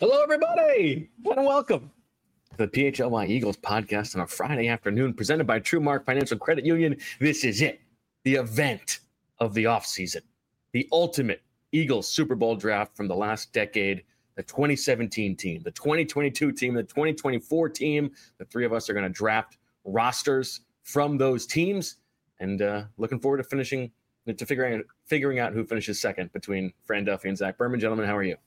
Hello, everybody, and welcome to the PHLY Eagles podcast on a Friday afternoon, presented by TrueMark Financial Credit Union. This is it, the event of the offseason, the ultimate Eagles Super Bowl draft from the last decade, the 2017 team, the 2022 team, the 2024 team. The three of us are going to draft rosters from those teams, and looking forward to figuring out who finishes second between Fran Duffy and Zach Berman. Gentlemen, how are you?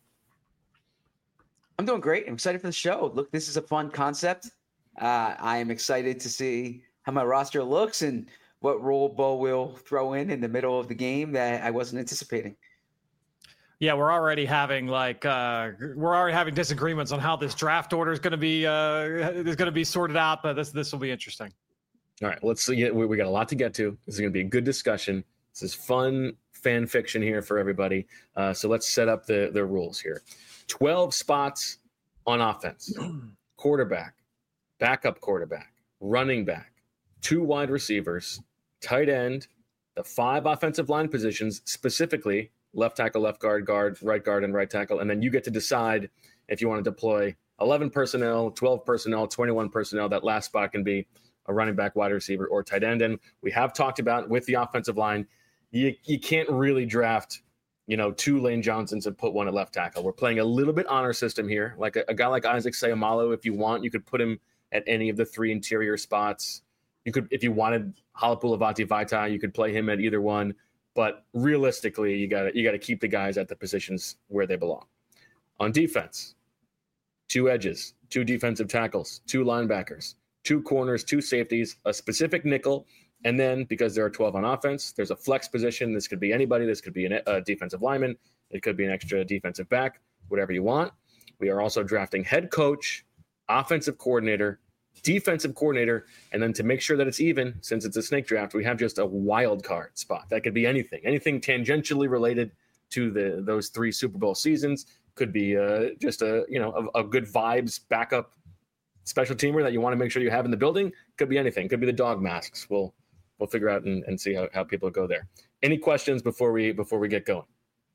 I'm doing great. I'm excited for the show. Look, this is a fun concept. I am excited to see how my roster looks and what role Bo will throw in the middle of the game that I wasn't anticipating. Yeah, we're already having disagreements on how this draft order is going to be sorted out, but this will be interesting. All right, let's see. We got a lot to get to. This is going to be a good discussion. This is fun fan fiction here for everybody. So let's set up the rules here. 12 spots on offense: quarterback, backup quarterback, running back, 2 wide receivers, tight end, the 5 offensive line positions, specifically left tackle, left guard, right guard, and right tackle. And then you get to decide if you want to deploy 11 personnel, 12 personnel, 21 personnel. That last spot can be a running back, wide receiver, or tight end. And we have talked about with the offensive line, you can't really draft 2 Lane Johnsons and put 1 at left tackle. We're playing a little bit honor system here. Like a guy like Isaac Seumalo, if you want, you could put him at any of the 3 interior spots. You could, if you wanted Halapoulivaati Vaitai, you could play him at either one. But realistically, you got to keep the guys at the positions where they belong. On defense, 2 edges, 2 defensive tackles, 2 linebackers, 2 corners, 2 safeties, a specific nickel. And then, because there are 12 on offense, there's a flex position. This could be anybody. This could be a defensive lineman. It could be an extra defensive back, whatever you want. We are also drafting head coach, offensive coordinator, defensive coordinator, and then to make sure that it's even, since it's a snake draft, we have just a wild card spot. That could be anything tangentially related to those 3 Super Bowl seasons. Could be just a good vibes backup special teamer that you want to make sure you have in the building. Could be anything. Could be the dog masks. We'll figure out and see how people go there. Any questions before we get going?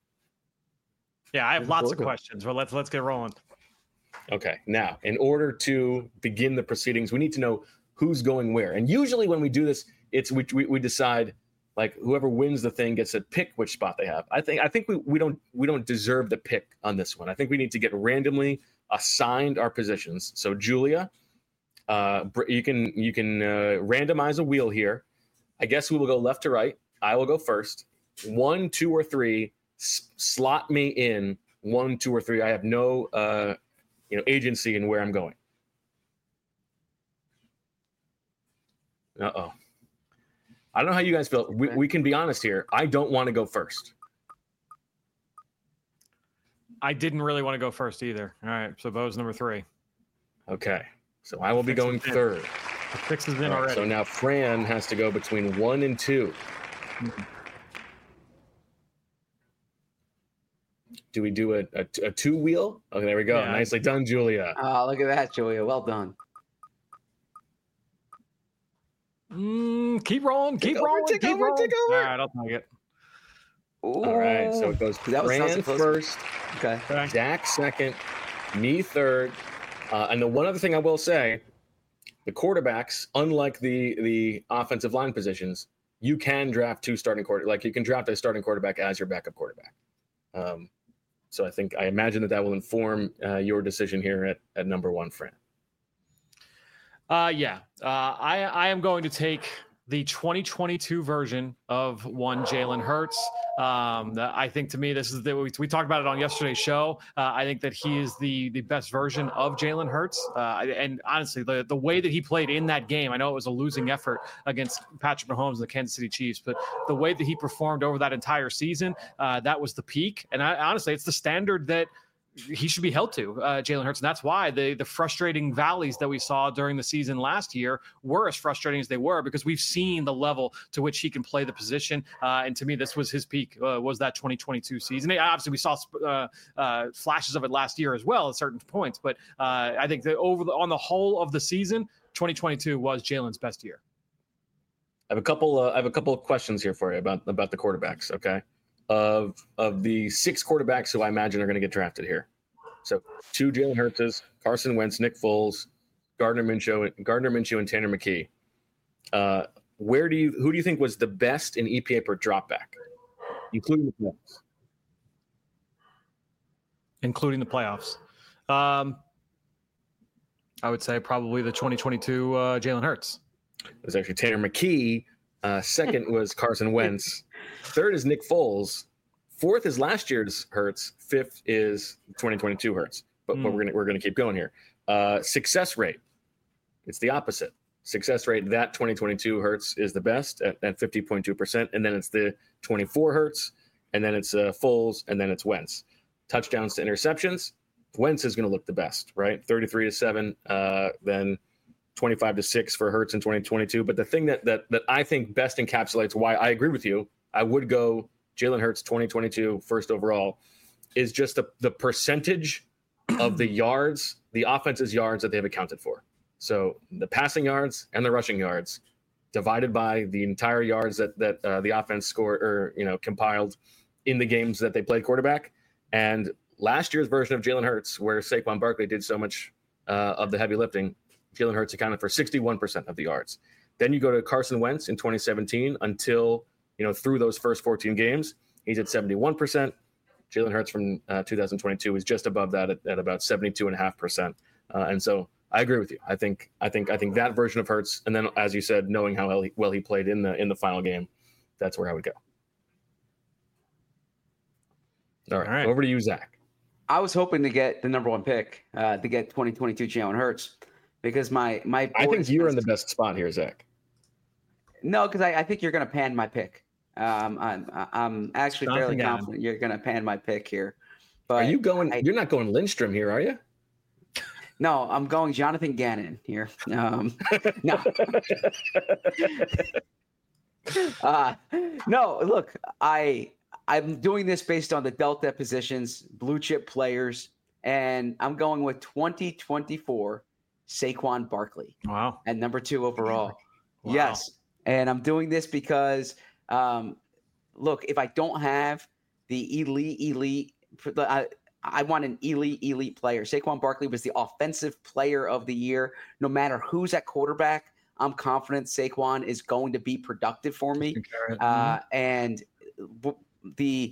Yeah, I have lots of questions. Well, let's get rolling. Okay. Now, in order to begin the proceedings, we need to know who's going where. And usually when we do this, it's we decide, like, whoever wins the thing gets to pick which spot they have. I think we don't deserve the pick on this one. I think we need to get randomly assigned our positions. So Julia, you can randomize a wheel here. I guess we will go left to right. I will go first. 1, 2, or 3. Slot me in 1, 2, or 3. I have no agency in where I'm going. Uh-oh. I don't know how you guys feel. We can be honest here. I don't want to go first. I didn't really want to go first either. All right, so Bo's number 3. Okay, so I will be going third. The fix is in already. So now Fran has to go between 1 and 2. Do we do a 2-wheel? Okay, there we go. Yeah. Nicely done, Julia. Oh, look at that, Julia. Well done. Keep rolling. Keep rolling. Take over. All right, I'll take it. Ooh. All right, so it goes Fran first, okay. Dak second, me third. And the one other thing I will say, the quarterbacks, unlike the offensive line positions, you can draft 2 starting quarterbacks. Like, you can draft a starting quarterback as your backup quarterback. So I imagine that will inform your decision here at number 1, Fran. I am going to take the 2022 version of one Jalen Hurts. I think, to me, this is we talked about it on yesterday's show. I think that he is the best version of Jalen Hurts. And honestly, the way that he played in that game, I know it was a losing effort against Patrick Mahomes and the Kansas City Chiefs, but the way that he performed over that entire season, that was the peak. And honestly, it's the standard that he should be held to, Jalen Hurts. And that's why the frustrating valleys that we saw during the season last year were as frustrating as they were, because we've seen the level to which he can play the position. And to me, this was his peak, was that 2022 season. Obviously, we saw flashes of it last year as well at certain points. But I think that on the whole of the season, 2022 was Jalen's best year. I have a couple of questions here for you about the quarterbacks. Okay. Of the 6 quarterbacks who I imagine are going to get drafted here. So 2 Jalen Hurts, Carson Wentz, Nick Foles, Gardner Minshew, and Tanner McKee. Who do you think was the best in EPA per dropback, including the playoffs? Including the playoffs. I would say probably the 2022 Jalen Hurts. It was actually Tanner McKee. Second was Carson Wentz. Third is Nick Foles. Fourth is last year's Hurts. Fifth is 2022 Hurts. But we're gonna keep going here. Success rate. It's the opposite. Success rate, that 2022 Hurts is the best at 50.2%, and then it's the 24 Hurts, and then it's Foles, and then it's Wentz. Touchdowns to interceptions, Wentz is going to look the best, right? 33-7, then 25-6 for Hurts in 2022. But the thing that I think best encapsulates why I agree with you, I would go Jalen Hurts 2022 first overall, is just the percentage of the yards, the offense's yards that they've accounted for. So the passing yards and the rushing yards divided by the entire yards that the offense scored or compiled in the games that they played quarterback. And last year's version of Jalen Hurts, where Saquon Barkley did so much of the heavy lifting, Jalen Hurts accounted for 61% of the yards. Then you go to Carson Wentz in 2017 until through those first 14 games, he's at 71%. Jalen Hurts from 2022 is just above that at about 72.5%. And so I agree with you. I think that version of Hurts, and then as you said, knowing how well he played in the final game, that's where I would go. All right. Over to you, Zach. I was hoping to get the number one pick to get 2022 Jalen Hurts because my I think you're in the best spot here, Zach. No, because I think you're going to pan my pick. I'm actually fairly confident you're going to pan my pick here. But are you going? You're not going Lindstrom here, are you? No, I'm going Jonathan Gannon here. No. No, look, I'm doing this based on the Delta positions, blue chip players, and I'm going with 2024 Saquon Barkley. Wow. At number 2 overall. Wow. Yes. And I'm doing this because, look, if I don't have the elite, I want an elite player. Saquon Barkley was the offensive player of the year. No matter who's at quarterback, I'm confident Saquon is going to be productive for me. And the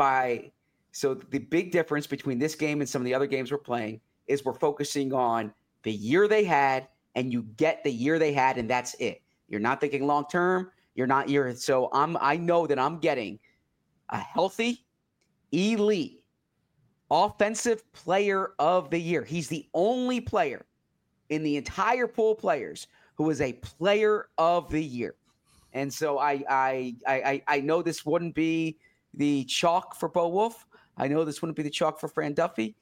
big difference between this game and some of the other games we're playing is we're focusing on the year they had, and you get the year they had, and that's it. You're not thinking long term. So I know that I'm getting a healthy, elite, offensive player of the year. He's the only player in the entire pool of players who is a player of the year. And so I know this wouldn't be the chalk for Bo Wolf. I know this wouldn't be the chalk for Fran Duffy.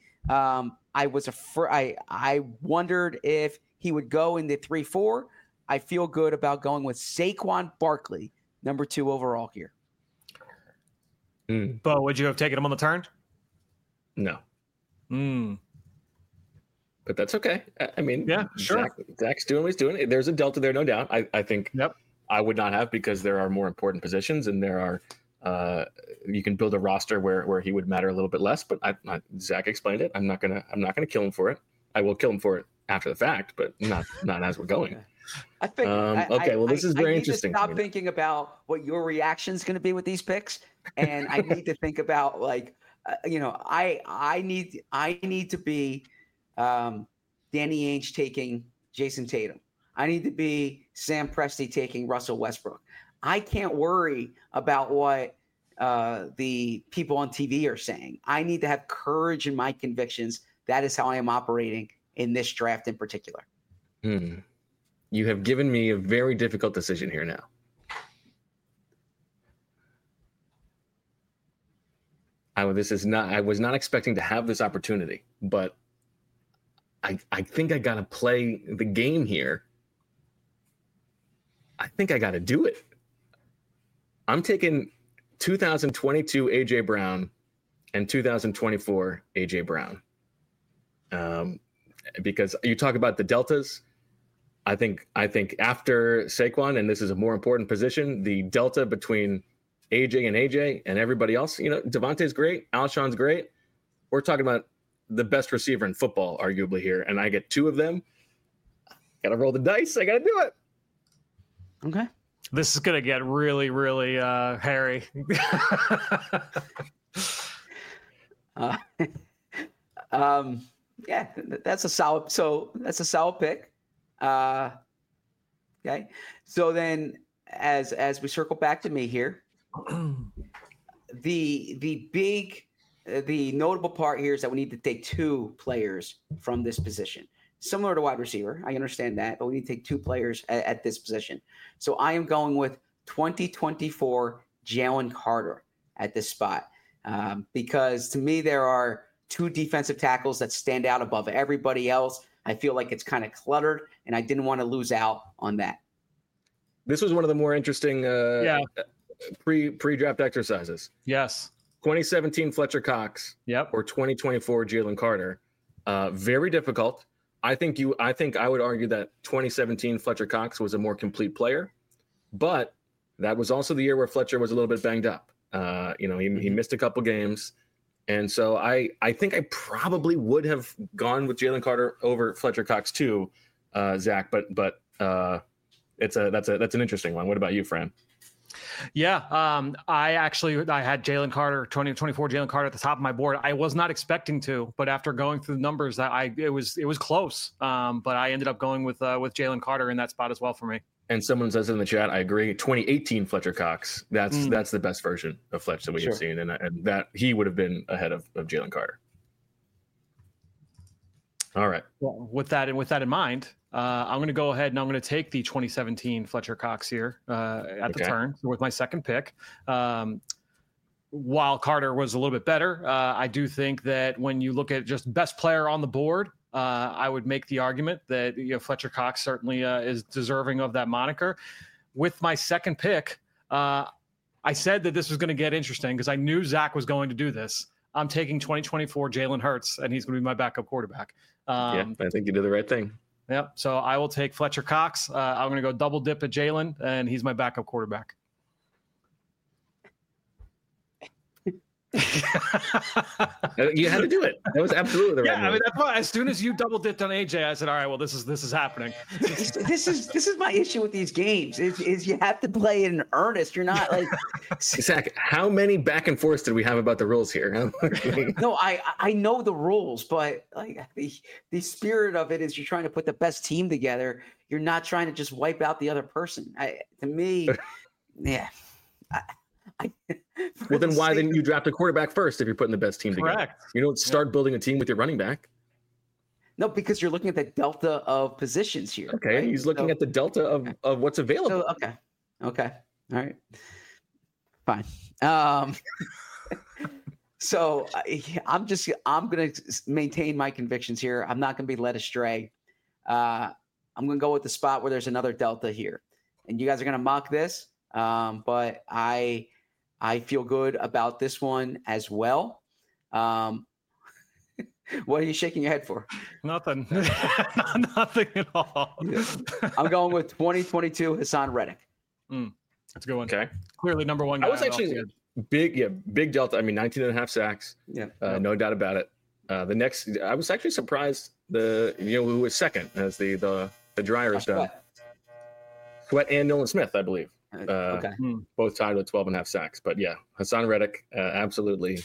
I wondered if he would go in the 3-4. I feel good about going with Saquon Barkley, number 2 overall here. Bo, would you have taken him on the turn? No. But that's okay. I mean, yeah, sure. Zach's doing what he's doing. There's a delta there, no doubt. I think I would not have, because there are more important positions, and there are you can build a roster where he would matter a little bit less. But Zach explained it. I'm not gonna kill him for it. I will kill him for it after the fact, but not as we're going. I think. This is very interesting. I need to stop thinking about what your reaction is going to be with these picks, and I need to think about I need to be Danny Ainge taking Jason Tatum. I need to be Sam Presti taking Russell Westbrook. I can't worry about what the people on TV are saying. I need to have courage in my convictions. That is how I am operating in this draft in particular. You have given me a very difficult decision here now. I was not expecting to have this opportunity, but I think I got to play the game here. I think I got to do it. I'm taking 2022 AJ Brown and 2024 AJ Brown. Because you talk about the deltas. I think after Saquon, and this is a more important position, the delta between AJ and everybody else, Devontae's great, Alshon's great. We're talking about the best receiver in football, arguably here, and I get 2 of them. Got to roll the dice. I got to do it. Okay. This is gonna get really, really hairy. Yeah, that's a solid. So that's a solid pick. Okay. So then, as we circle back to me here, the notable part here is that we need to take 2 players from this position. Similar to wide receiver, I understand that, but we need to take 2 players at this position. So I am going with 2024 Jalen Carter at this spot because to me there are 2 defensive tackles that stand out above everybody else. I feel like it's kind of cluttered, and I didn't want to lose out on that. This was one of the more interesting pre-draft exercises. Yes. 2017 Fletcher Cox. Yep. Or 2024 Jalen Carter. Very difficult. I think I would argue that 2017 Fletcher Cox was a more complete player, but that was also the year where Fletcher was a little bit banged up. He missed a couple games. And so I think I probably would have gone with Jalen Carter over Fletcher Cox too, Zach. But that's an interesting one. What about you, Fran? Yeah, I had Jalen Carter, 2024 Jalen Carter at the top of my board. I was not expecting to, but after going through the numbers, it was close. But I ended up going with Jalen Carter in that spot as well for me. And someone says in the chat, I agree. 2018 Fletcher Cox. That's the best version of Fletch that we have seen, and that he would have been ahead of Jalen Carter. All right. Well, with that in mind, I'm going to go ahead and I'm going to take the 2017 Fletcher Cox here at the turn with my second pick. While Carter was a little bit better, I do think that when you look at just best player on the board, I would make the argument that Fletcher Cox certainly is deserving of that moniker. With my second pick, I said that this was going to get interesting because I knew Zach was going to do this. I'm taking 2024 Jalen Hurts, and he's going to be my backup quarterback. I think you did the right thing. Yep. So I will take Fletcher Cox. I'm going to go double dip at Jalen, and he's my backup quarterback. You had to do it. That was absolutely the right move. I mean, that's why as soon as you double dipped on AJ, I said, all right, well, this is happening. This is my issue with these games is you have to play in earnest. You're not like Zach, how many back and forths did we have about the rules here? No, I know the rules, but like the spirit of it is you're trying to put the best team together. You're not trying to just wipe out the other person. To me, yeah. Well, then why didn't you draft a quarterback first if you're putting the best team together? You don't start building a team with your running back. No, because you're looking at the delta of positions here. Okay, right? He's looking at the delta of what's available. So, okay, all right, fine. So I'm going to maintain my convictions here. I'm not going to be led astray. I'm going to go with the spot where there's another delta here, and you guys are going to mock this. But I feel good about this one as well. What are you shaking your head for? Nothing. Nothing at all. I'm going with 2022 Hassan Reddick. That's a good one. Okay. Clearly number one guy. I was actually big delta. I mean, 19 and a half sacks. Yeah. No doubt about it. The next, I was actually surprised who was second as the Dryers done. Sweat and Nolan Smith, I believe. Both tied with 12 and a half sacks. But yeah, Hassan Reddick, absolutely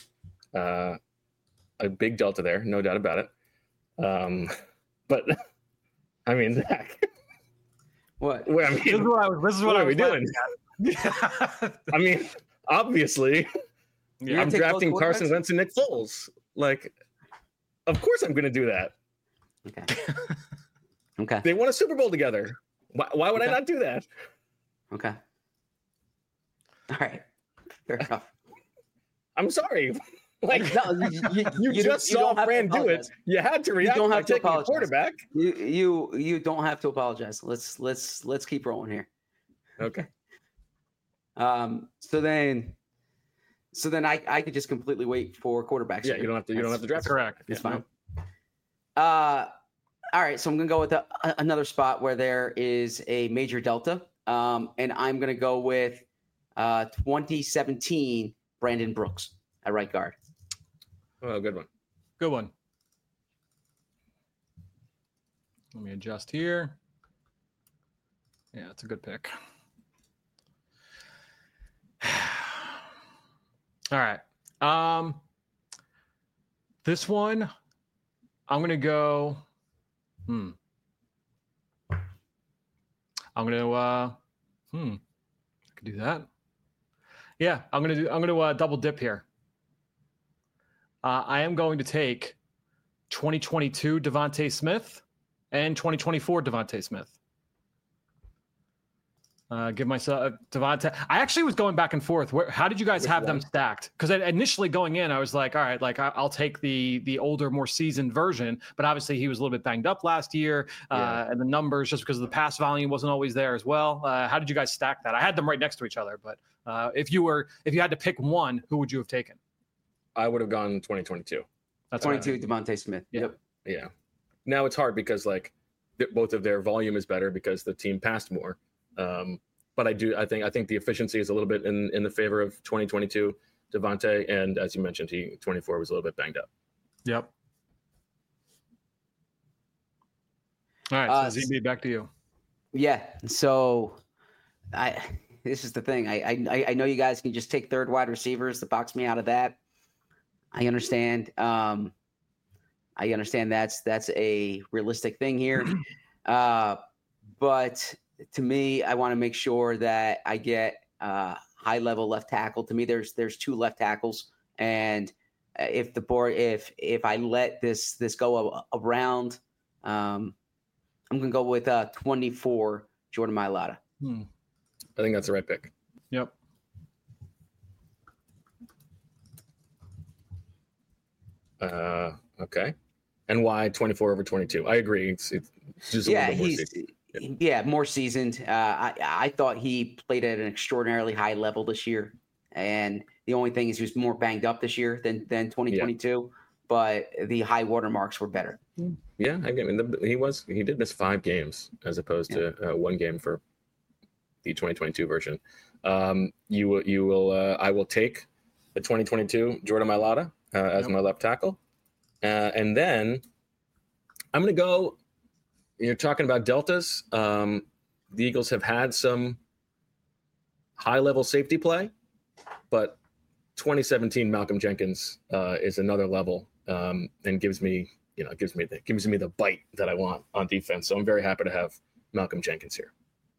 a big delta there, no doubt about it. But I mean, Zach, what? Well, I mean, this is what are we doing? I mean, obviously, I'm drafting Carson Wentz and Nick Foles. Like, of course I'm going to do that. Okay. They won a Super Bowl together. Why would I not do that? Okay. All right. Fair enough. I'm sorry. Like, no, you just saw Fran do it. You had to react. You don't have to apologize. Quarterback. You don't have to apologize. Let's keep rolling here. Okay. So then I could just completely wait for quarterbacks. Yeah, you don't have to draft. Correct. It's fine. All right, so I'm gonna go with another spot where there is a major delta, and I'm gonna go with 2017 Brandon Brooks at right guard. Oh, good one. Good one. Let me adjust here. Yeah, it's a good pick. All right. This one, I'm going to go. I'm going to. I could do that. Yeah, I'm going to double dip here. I am going to take 2022 Devontae Smith and 2024 Devontae Smith. Give myself Devontae. I actually was going back and forth. How did you guys have them stacked? Because initially going in, I was like, all right, like I'll take the older, more seasoned version. But obviously, he was a little bit banged up last year, and the numbers, just because of the pass volume, wasn't always there as well. How did you guys stack that? I had them right next to each other, but if you had to pick one, who would you have taken? I would have gone 2022. That's 22 Devontae Smith. Yep. Yeah. Now it's hard because like both of their volume is better because the team passed more. But I think the efficiency is a little bit in the favor of 2022 Devontae, and as you mentioned, 24 was a little bit banged up. Yep. All right, so ZB, back to you. Yeah. So this is the thing. I know you guys can just take third wide receivers to box me out of that. I understand. I understand that's a realistic thing here. But to me, I want to make sure that I get high level left tackle. To me, there's two left tackles, and if I let this go around, I'm gonna go with 24 Jordan Mailata. I think that's the right pick. Yep. Okay. And why 24 over 22? I agree. It's just a little bit more seasoned. Yeah, more seasoned. I thought he played at an extraordinarily high level this year, and the only thing is he was more banged up this year than 2022. Yeah. But the high watermarks were better. Yeah, I mean he did miss 5 games as opposed to 1 game for the 2022 version. I will take the 2022 Jordan Mailata as my left tackle, and then I'm going to go. You're talking about deltas. The Eagles have had some high-level safety play, but 2017 Malcolm Jenkins is another level and gives me the bite that I want on defense. So I'm very happy to have Malcolm Jenkins here.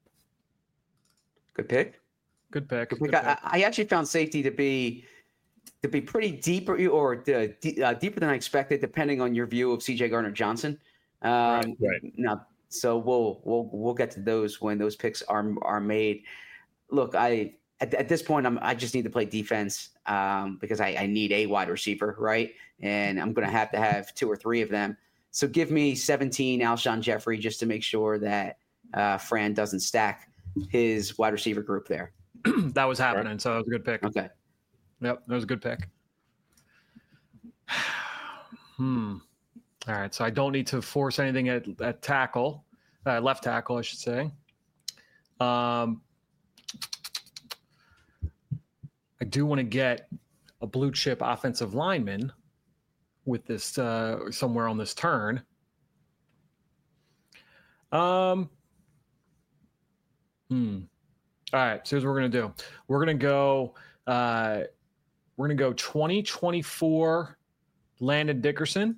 Good pick. Good pick. I actually found safety to be pretty deep or deeper than I expected, depending on your view of C.J. Gardner-Johnson. Right. Now, so we'll get to those when those picks are made. Look, at this point I just need to play defense because I need a wide receiver, right? And I'm going to have 2 or 3 of them. So give me 17 Alshon Jeffrey just to make sure that Fran doesn't stack his wide receiver group there. That was happening, so that was a good pick. Okay. Yep, that was a good pick. All right, so I don't need to force anything at tackle, left tackle, I should say. I do want to get a blue chip offensive lineman with this somewhere on this turn. All right, so here's what we're gonna do. We're gonna go 2024 Landon Dickerson.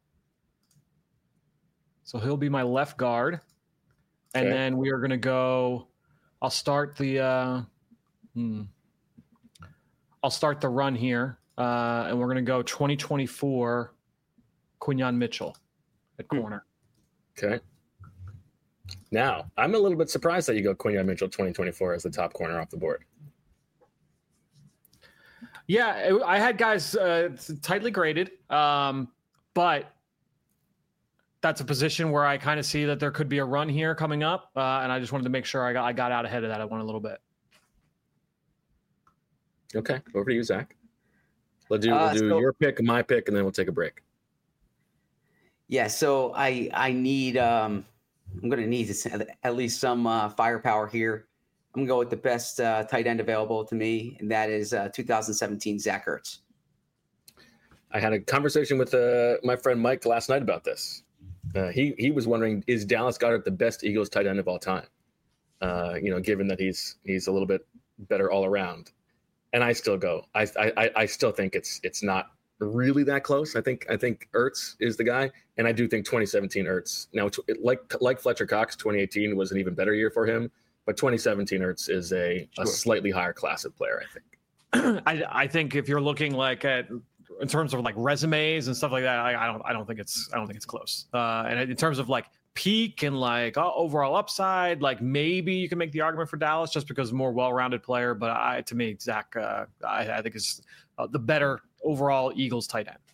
So he'll be my left guard. And then we are going to go – I'll start the run here, and we're going to go 2024 Quinyon Mitchell at corner. Okay. Now, I'm a little bit surprised that you go Quinyon Mitchell 2024 as the top corner off the board. Yeah, I had guys tightly graded, but – that's a position where I kind of see that there could be a run here coming up, and I just wanted to make sure I got out ahead of that. I went a little bit. Okay, over to you, Zach. We'll do your pick, my pick, and then we'll take a break. Yeah, so I need I'm going to need at least some firepower here. I'm going to go with the best tight end available to me, and that is 2017 Zach Ertz. I had a conversation with my friend Mike last night about this. He was wondering, is Dallas Goedert the best Eagles tight end of all time? Given that he's a little bit better all around. And I still go. I still think it's not really that close. I think Ertz is the guy, and I do think 2017 Ertz. Now, like Fletcher Cox, 2018 was an even better year for him, but 2017 Ertz is a slightly higher class of player, I think. I think if you're looking like at in terms of like resumes and stuff like that, I don't think it's close. And in terms of like peak and like overall upside, like maybe you can make the argument for Dallas just because more well-rounded player. But to me, Zach, I think is the better overall Eagles tight end.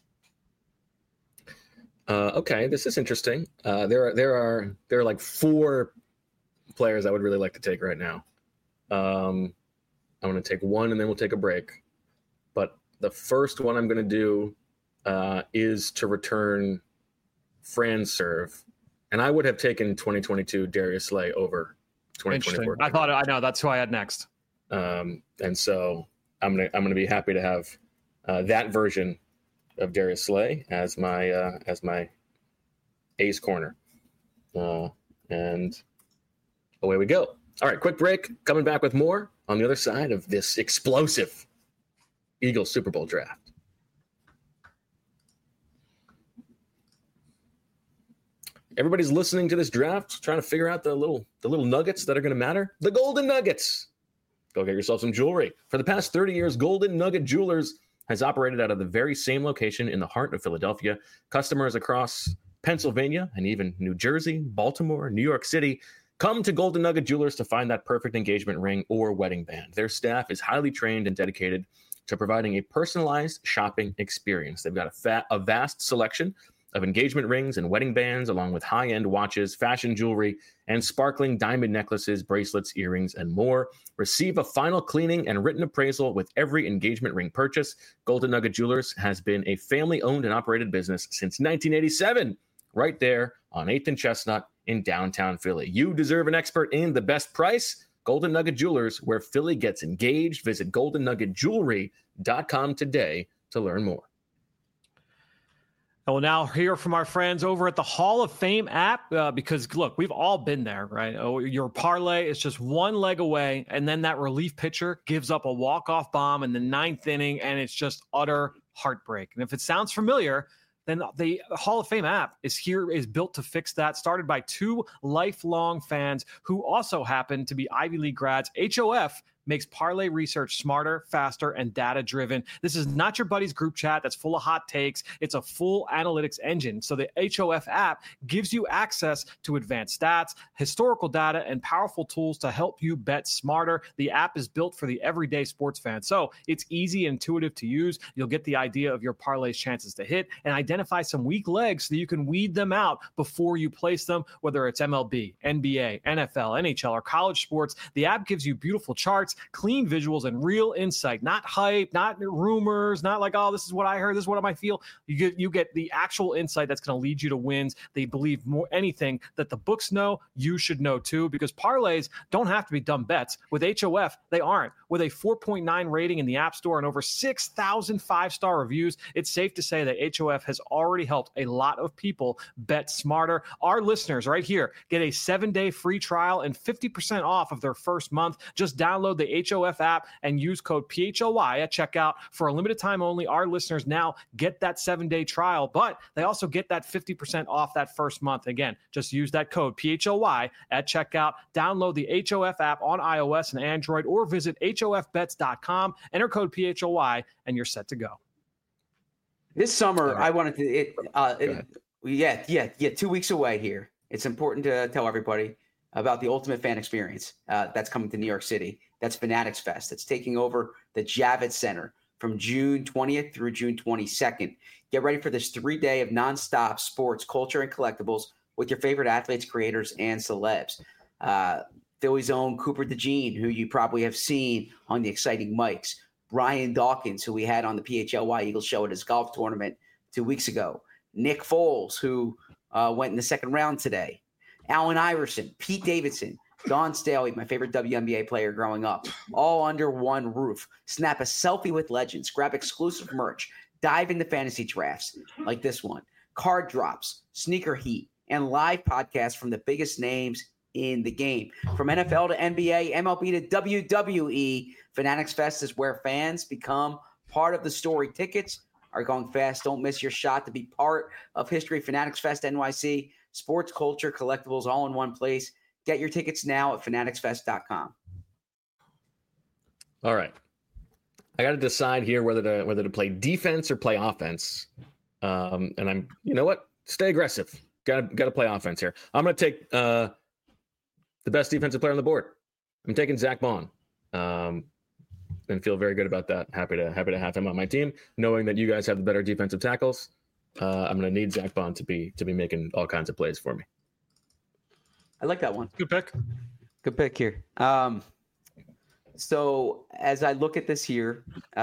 Okay, this is interesting. There are like 4 players I would really like to take right now. I'm going to take one and then we'll take a break. But the first one I'm going to do is to return Franz Serve. And I would have taken 2022 Darius Slay over 2024. I know that's who I had next. And so I'm gonna be happy to have that version of Darius Slay as my ace corner. And away we go. All right, quick break. Coming back with more on the other side of this explosive Eagles Super Bowl draft. Everybody's listening to this draft, trying to figure out the little nuggets that are going to matter. The Golden Nuggets. Go get yourself some jewelry. For the past 30 years, Golden Nugget Jewelers has operated out of the very same location in the heart of Philadelphia. Customers across Pennsylvania and even New Jersey, Baltimore, New York City come to Golden Nugget Jewelers to find that perfect engagement ring or wedding band. Their staff is highly trained and dedicated to providing a personalized shopping experience. They've got a vast selection of engagement rings and wedding bands, along with high-end watches, fashion jewelry, and sparkling diamond necklaces, bracelets, earrings, and more. Receive a final cleaning and written appraisal with every engagement ring purchase. Golden Nugget Jewelers has been a family-owned and operated business since 1987, right there on 8th and Chestnut in downtown Philly. You deserve an expert in the best price. Golden Nugget Jewelers, where Philly gets engaged. Visit goldennuggetjewelry.com today to learn more. I will now hear from our friends over at the Hall of Fame app because, look, we've all been there, right? Your parlay is just one leg away, and then that relief pitcher gives up a walk-off bomb in the 9th inning, and it's just utter heartbreak. And if it sounds familiar, then the Hall of Fame app is built to fix that, started by 2 lifelong fans who also happen to be Ivy League grads. HOF makes parlay research smarter, faster, and data-driven. This is not your buddy's group chat that's full of hot takes. It's a full analytics engine. So the HOF app gives you access to advanced stats, historical data, and powerful tools to help you bet smarter. The app is built for the everyday sports fan. So it's easy and intuitive to use. You'll get the idea of your parlay's chances to hit and identify some weak legs so that you can weed them out before you place them, whether it's MLB, NBA, NFL, NHL, or college sports. The app gives you beautiful charts, clean visuals, and real insight, not hype, not rumors, not like, oh, this is what I heard, this is what I might feel. You get the actual insight that's going to lead you to wins. They believe more anything that the books know, you should know too, because parlays don't have to be dumb bets. With HOF, they aren't. With a 4.9 rating in the App Store and over 6,000 5-star reviews, it's safe to say that HOF has already helped a lot of people bet smarter. Our listeners right here get a 7-day free trial and 50% off of their first month. Just download the HOF app and use code PHLY at checkout. For a limited time only, our listeners now get that 7-day trial, but they also get that 50% off that first month. Again, just use that code PHLY at checkout. Download the HOF app on iOS and Android or visit HOFbets.com. Enter code PHLY and you're set to go. This summer, I wanted to 2 weeks away here. It's important to tell everybody about the ultimate fan experience that's coming to New York City. That's Fanatics Fest. It's taking over the Javits Center from June 20th through June 22nd. Get ready for this 3-day of nonstop sports, culture, and collectibles with your favorite athletes, creators, and celebs. Philly's own Cooper DeJean, who you probably have seen on the exciting mics. Brian Dawkins, who we had on the PHLY Eagles show at his golf tournament 2 weeks ago. Nick Foles, who went in the second round today. Allen Iverson, Pete Davidson, Dawn Staley, my favorite WNBA player growing up, all under one roof. Snap a selfie with legends, grab exclusive merch, dive into fantasy drafts like this one, card drops, sneaker heat, and live podcasts from the biggest names in the game. From NFL to NBA, MLB to WWE, Fanatics Fest is where fans become part of the story. Tickets are going fast. Don't miss your shot to be part of history. Fanatics Fest NYC, sports, culture, collectibles, all in one place. Get your tickets now at fanaticsfest.com. All right. I got to decide here whether to play defense or play offense. And I'm, you know what? Stay aggressive. Got to play offense here. I'm going to take the best defensive player on the board. I'm taking Zach Bond. And feel very good about that. Happy to have him on my team, knowing that you guys have the better defensive tackles. I'm going to need Zach Bond to be making all kinds of plays for me. I like that one. Good pick. Good pick here. So as I look at this here,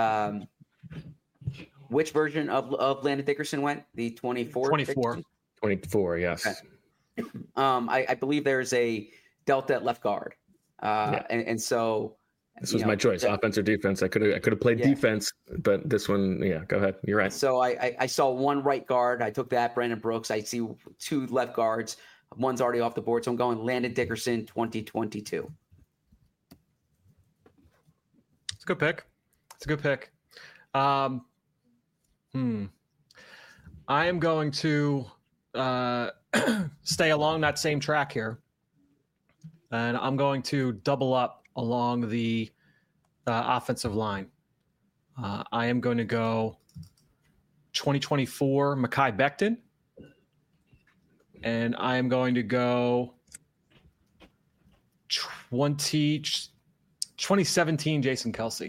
which version of Landon Dickerson went? The 24? 24. 24, yes. Okay. I believe there's a Delta at left guard. And so this was my choice, offense or defense. I could have played defense, but this one, go ahead. You're right. So I saw one right guard. I took that, Brandon Brooks. I see two left guards. One's already off the board, so I'm going Landon Dickerson 2022. It's a good pick. I am going to stay along that same track here, and I'm going to double up along the offensive line. I am going to go 2024 Mekhi Becton, and I am going to go 2017 Jason Kelce.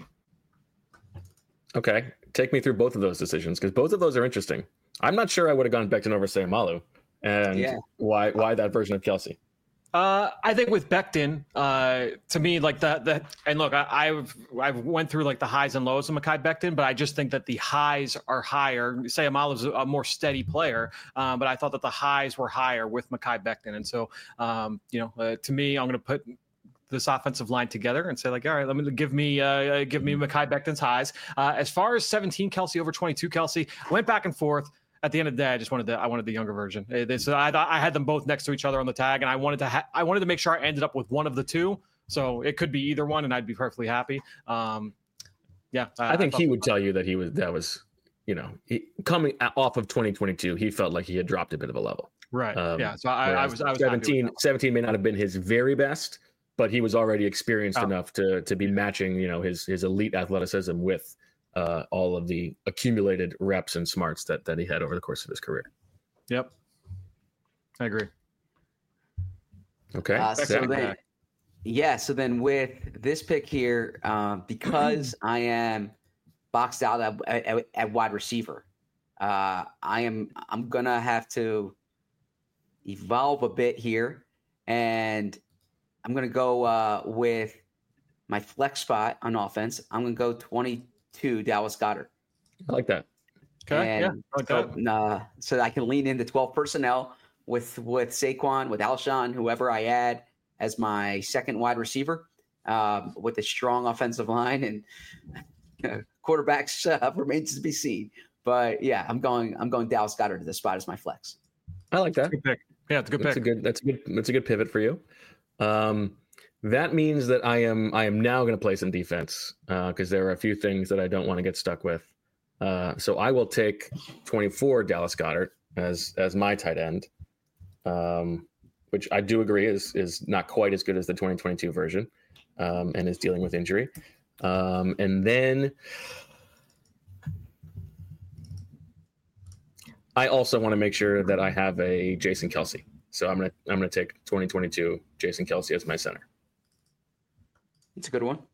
Okay. Take me through both of those decisions, because both of those are interesting. I'm not sure I would have gone Becton over Sayamalu, and why that version of Kelce. I think with Becton, to me, like the and look, I've went through like the highs and lows of Mekhi Becton, but I just think that the highs are higher. Sayamalu's a more steady player, but I thought that the highs were higher with Mekhi Becton, and so to me, I'm going to put this offensive line together and say like, all right, let me give me Mekhi Becton's highs. As far as 17 Kelce over 22 Kelce, went back and forth. At the end of the day, I wanted the younger version. I had them both next to each other on the tag, and I wanted to make sure I ended up with one of the two. So it could be either one, and I'd be perfectly happy. I think he would tell you that coming off of 2022, he felt like he had dropped a bit of a level. Right. So I was 17 may not have been his very best, but he was already experienced enough to be matching, his elite athleticism with all of the accumulated reps and smarts that he had over the course of his career. Yep. I agree. Okay. So then with this pick here, because I am boxed out at wide receiver, I'm going to have to evolve a bit here, and I'm going to go with my flex spot on offense. I'm going to go 22 Dallas Goedert. I like that. Okay. I like that. So I can lean into 12 personnel with Saquon, with Alshon, whoever I add as my second wide receiver, with a strong offensive line, and quarterbacks remains to be seen. But I'm going Dallas Goedert to this spot as my flex. I like that. That's a good pick. Yeah, it's a good pick. That's a good pivot for you. That means that I am now going to play some defense because there are a few things that I don't want to get stuck with. So I will take 24 Dallas Goedert as my tight end, which I do agree is not quite as good as the 2022 version, and is dealing with injury. And then I also want to make sure that I have a Jason Kelce. So I'm gonna take 2022 Jason Kelce as my center. It's a good one.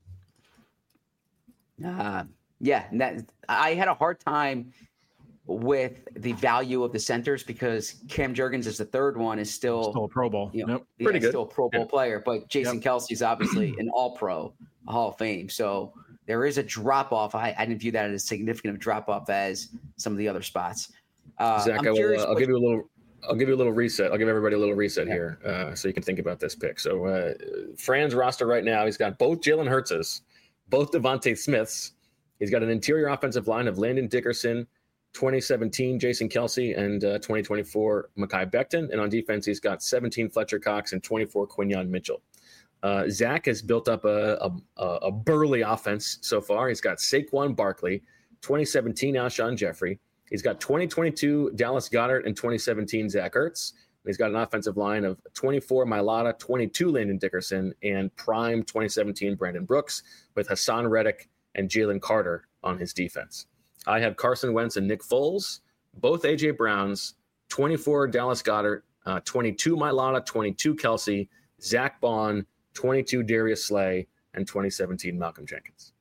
I had a hard time with the value of the centers because Cam Jurgens is the third one is still a Pro Bowl. Pretty good. Still a Pro Bowl player, but Jason Kelce is obviously an All-Pro, a Hall of Fame. So there is a drop off. I didn't view that as significant of drop off as some of the other spots. Zach, I'll give you a little reset. I'll give everybody a little reset here so you can think about this pick. So Fran's roster right now, he's got both Jalen Hurtses, both Devontae Smiths. He's got an interior offensive line of Landon Dickerson, 2017 Jason Kelsey, and 2024 Mekhi Becton. And on defense, he's got 17 Fletcher Cox and 24 Quinyon Mitchell. Zach has built up a burly offense so far. He's got Saquon Barkley, 2017 Alshon Jeffrey. He's got 2022 Dallas Goedert and 2017 Zach Ertz. He's got an offensive line of 24 Mailata, 22 Landon Dickerson, and prime 2017 Brandon Brooks, with Hassan Reddick and Jalen Carter on his defense. I have Carson Wentz and Nick Foles, both A.J. Browns, 24 Dallas Goedert, 22 Mailata, 22 Kelsey, Zach Bond, 22 Darius Slay, and 2017 Malcolm Jenkins.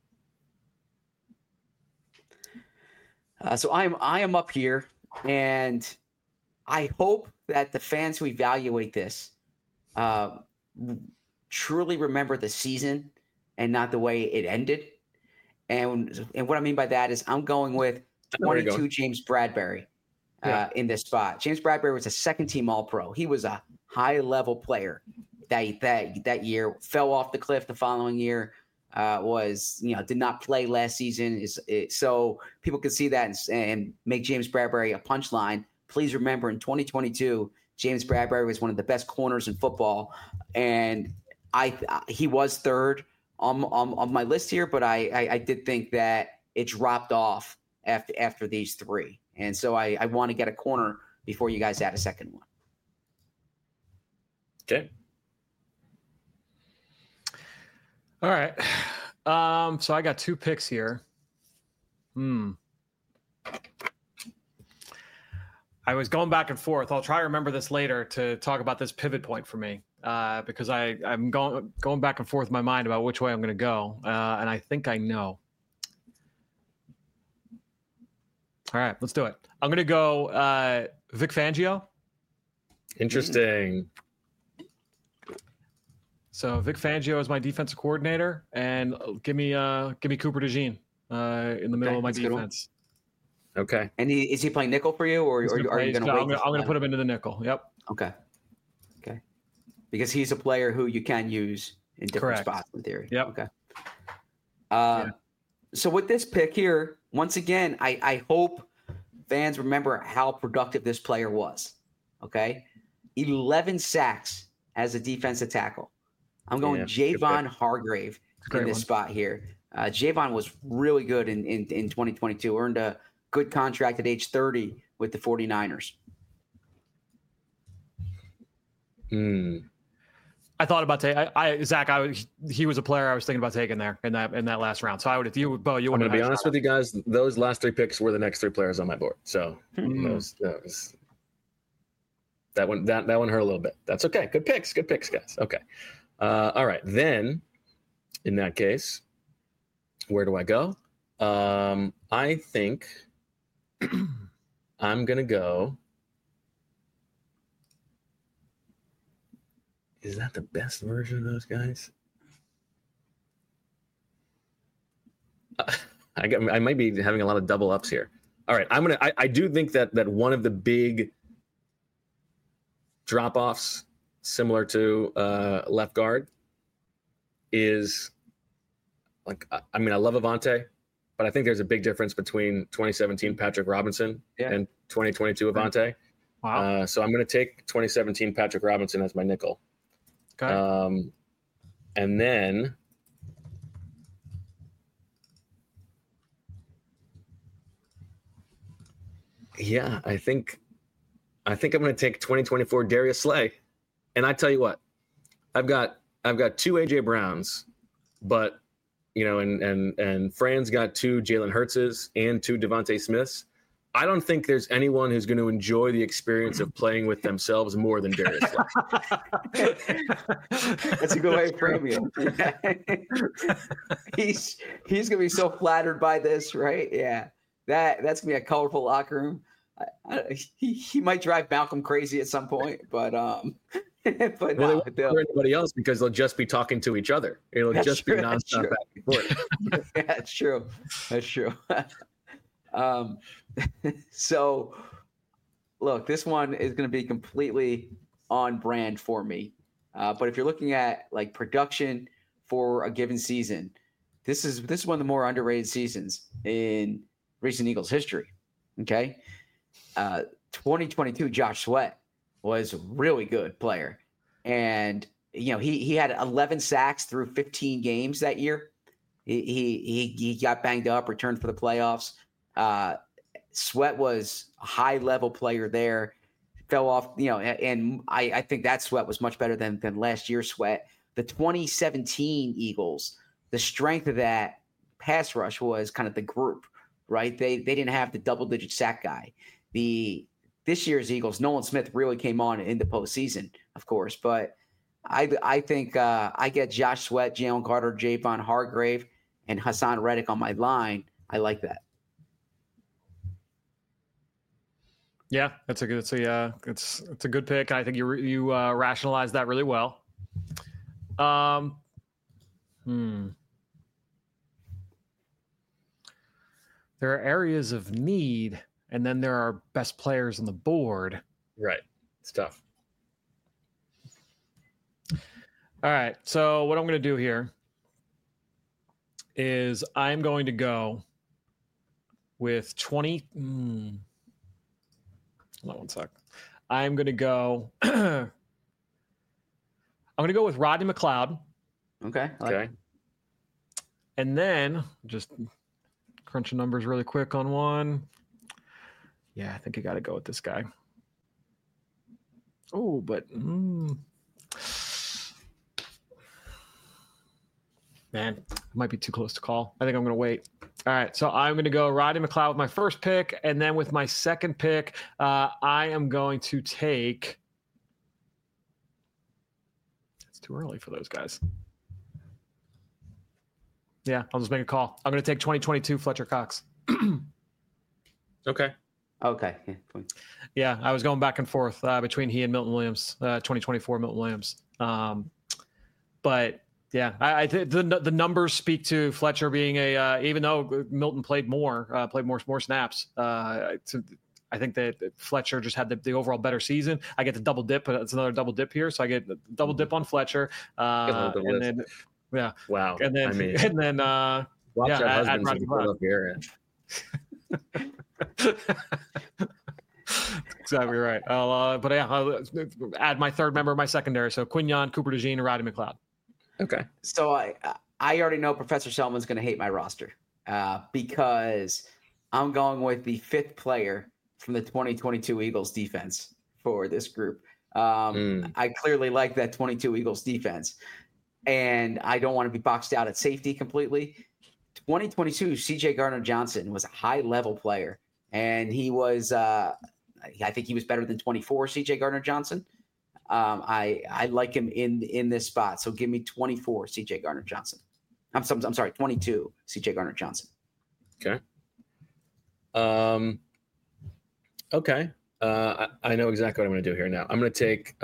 So I am up here, and I hope that the fans who evaluate this truly remember the season and not the way it ended. And what I mean by that is I'm going with 22 James Bradbury in this spot. James Bradbury was a second-team All-Pro. He was a high-level player that year. Fell off the cliff the following year. Did not play last season. So people can see that and make James Bradbury a punchline. Please remember, in 2022, James Bradbury was one of the best corners in football, and he was third on my list here. But I did think that it dropped off after these three, and so I want to get a corner before you guys add a second one. Okay. All right. So I got two picks here. I was going back and forth. I'll try to remember this later to talk about this pivot point for me, because I'm going back and forth in my mind about which way I'm going to go, and I think I know. All right, let's do it. I'm going to go Vic Fangio. Interesting. So Vic Fangio is my defensive coordinator, and give me Cooper DeJean in the middle of my defense. Okay. And is he playing nickel for you, or are you going to wait? I'm going to put him into the nickel. Yep. Okay. Because he's a player who you can use in different spots in theory. Yep. Okay. So with this pick here, once again, I hope fans remember how productive this player was. Okay. 11 sacks as a defensive tackle. I'm going Javon Hargrave in this spot here. Javon was really good in 2022, earned a good contract at age 30 with the 49ers. I thought about Zach. He was a player I was thinking about taking there in that last round. So I would, if you, Bo, you. I'm going to be honest with you guys. Those last three picks were the next three players on my board. So that one hurt a little bit. That's okay. Good picks, guys. Okay. All right. Then, in that case, where do I go? I think I'm going to go. Is that the best version of those guys? I might be having a lot of double ups here. All right. I do think that one of the big drop offs, similar to left guard, is I love Avonte, but I think there's a big difference between 2017 Patrick Robinson and 2022 Avonte. Wow. So I'm going to take 2017 Patrick Robinson as my nickel. Okay. And then I think I'm going to take 2024 Darius Slay. And I tell you what, I've got two AJ Browns, but and Fran's got two Jalen Hurtses and two Devontae Smiths. I don't think there's anyone who's going to enjoy the experience of playing with themselves more than Darius Slay. That's a good way to frame it. He's going to be so flattered by this, right? Yeah, that's going to be a colorful locker room. He might drive Malcolm crazy at some point, but they won't hear anybody else because they'll just be talking to each other. It'll just be nonstop back and forth. Yeah, that's true. That's true. So, look, this one is going to be completely on brand for me. But if you're looking at like production for a given season, this is one of the more underrated seasons in recent Eagles history. Okay. 2022, Josh Sweat was a really good player. And, he had 11 sacks through 15 games that year. He got banged up, returned for the playoffs. Sweat was a high-level player there. Fell off, and I think that Sweat was much better than last year's Sweat. The 2017 Eagles, the strength of that pass rush was kind of the group, right? They didn't have the double-digit sack guy. This year's Eagles, Nolan Smith really came on in the postseason, of course, but I think I get Josh Sweat, Jalen Carter, Javon Hargrave, and Hassan Reddick on my line. I like that. Yeah, it's a good pick. I think you rationalized that really well. There are areas of need, and then there are best players on the board. Right. It's tough. All right. So what I'm going to do here is I'm going to go with 20. Hold on one sec. I'm going to go. I'm going to go with Rodney McLeod. Okay. Okay. And then just crunching numbers really quick on one. Yeah, I think you got to go with this guy. Oh, but man, it might be too close to call. I think I'm going to wait. All right, so I'm going to go Rodney McLeod with my first pick, and then with my second pick, I am going to take. It's too early for those guys. Yeah, I'll just make a call. I'm going to take 2022 Fletcher Cox. Okay. Okay. Yeah, I was going back and forth between he and Milton Williams, 2024 Milton Williams. But yeah, I think the numbers speak to Fletcher being even though Milton played more snaps. I think that Fletcher just had the overall better season. I get the double dip, but it's another double dip here, so I get the double dip on Fletcher, and then yeah, wow, and then watch yeah, our add husbands Rodney pull up here. Exactly right. I'll add my third member of my secondary. So Quinyon, Cooper DeJean, and Rodney McLeod. Okay. So I already know Professor Selman's going to hate my roster because I'm going with the fifth player from the 2022 Eagles defense for this group. I clearly like that 22 Eagles defense, and I don't want to be boxed out at safety completely. 2022 CJ Gardner-Johnson was a high-level player, and he was I think he was better than 24 CJ Gardner-Johnson. I like him in this spot. So give me 24 CJ Gardner-Johnson. I'm sorry, 22 CJ Gardner-Johnson. Okay. Okay. I know exactly what I'm going to do here now. I'm going to take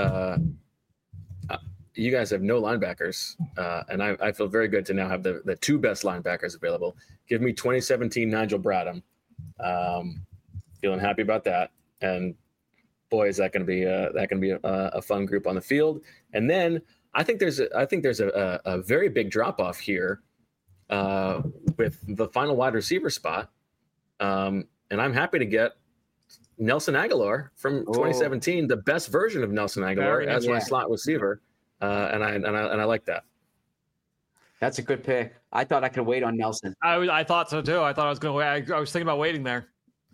you guys have no linebackers, and I feel very good to now have the two best linebackers available. Give me 2017 Nigel Bradham. Feeling happy about that. And boy, is that going to be a fun group on the field. And then I think there's a very big drop off here with the final wide receiver spot. And I'm happy to get Nelson Aguilar from 2017, the best version of Nelson Aguilar as my slot receiver. And I like that. That's a good pick. I thought I could wait on Nelson. I thought so too. I thought I was going to wait. I was thinking about waiting there.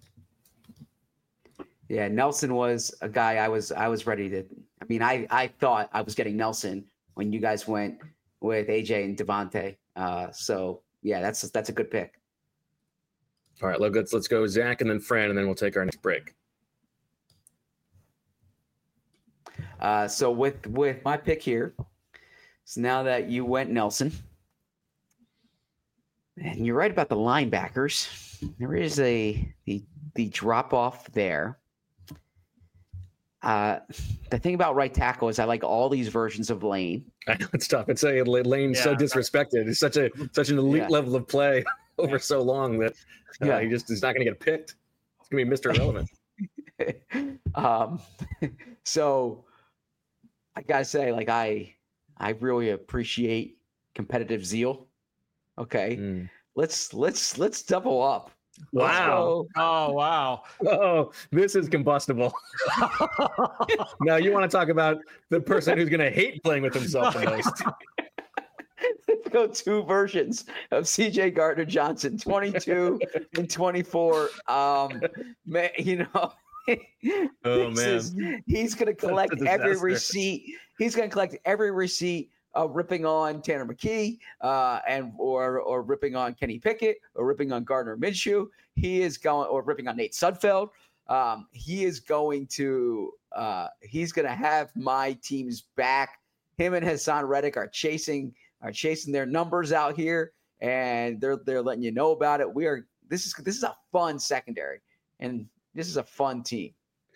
Yeah, Nelson was a guy I was ready to. I mean, I thought I was getting Nelson when you guys went with AJ and Devontae. So yeah, that's a good pick. All right, let's go Zach and then Fran, and then we'll take our next break. So with my pick here, so now that you went Nelson, and you're right about the linebackers, there is the drop off there. The thing about right tackle is I like all these versions of Lane. I know it's tough. It's Lane's so disrespected. It's such an elite level of play over so long that he's not going to get picked. It's going to be Mr. Irrelevant. So I gotta say, like I really appreciate competitive zeal. Okay, let's double up Wow. Oh, wow. Oh, this is combustible. Now you want to talk about the person who's going to hate playing with himself the most. Let's go two versions of CJ Gardner-Johnson, 22 and 24. Man, he's going to collect every receipt. He's going to collect every receipt ripping on Tanner McKee or ripping on Kenny Pickett or ripping on Gardner Minshew. He is going or ripping on Nate Sudfeld. He's going to have my team's back. Him and Hassan Reddick are chasing their numbers out here, and they're letting you know about it. This is a fun secondary, and this is a fun team.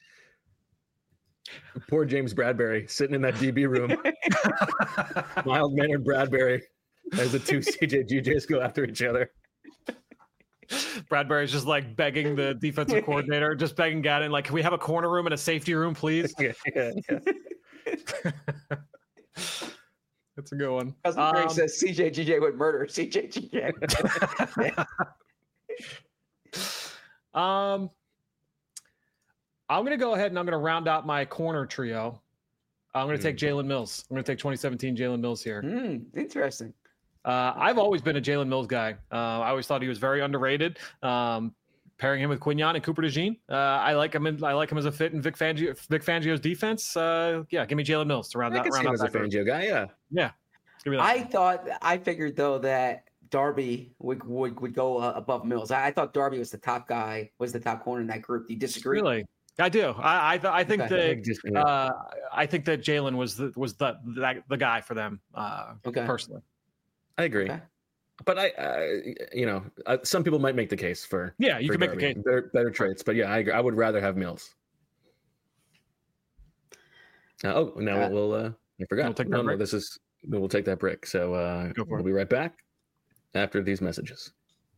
Poor James Bradbury sitting in that DB room. Mild-mannered Bradbury as the two CJ go after each other. Bradbury's just like begging the defensive coordinator, just begging Gannon, like, can we have a corner room and a safety room, please? Yeah. That's a good one. Cousin Greg says CJ would murder CJ. I'm going to go ahead and I'm going to round out my corner trio. I'm going to take Jalen Mills. I'm going to take 2017 Jalen Mills here. Interesting. I've always been a Jalen Mills guy. I always thought he was very underrated. Pairing him with Quignon and Cooper DeJean, I like him as a fit in Vic Fangio's defense. Give me Jalen Mills to round out. I as a Fangio guy. Yeah. I figured though that Darby would go above Mills. I thought Darby was the top guy, was the top corner in that group. Do you disagree? Really? I do. I think that I think that Jalen was the guy for them. Personally, I agree. Okay. But some people might make the case for you for can Darby. make the case. Better traits, but yeah, I agree. I would rather have Mills. We'll I forgot. We'll take that break. So we'll be right back after these messages.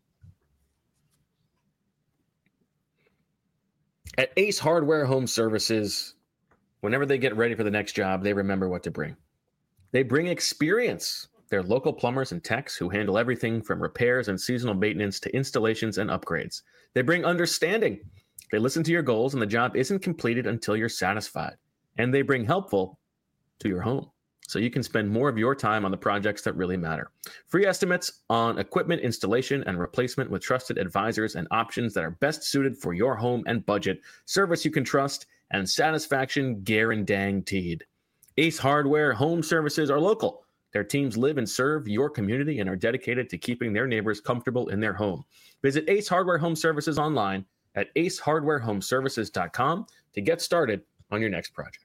At Ace Hardware Home Services, whenever they get ready for the next job, they remember what to bring. They bring experience. They're local plumbers and techs who handle everything from repairs and seasonal maintenance to installations and upgrades. They bring understanding. They listen to your goals, and the job isn't completed until you're satisfied. And they bring helpful to your home, so you can spend more of your time on the projects that really matter. Free estimates on equipment installation and replacement with trusted advisors and options that are best suited for your home and budget. Service you can trust and satisfaction guaranteed. Ace Hardware Home Services are local. Their teams live and serve your community and are dedicated to keeping their neighbors comfortable in their home. Visit Ace Hardware Home Services online at acehardwarehomeservices.com to get started on your next project.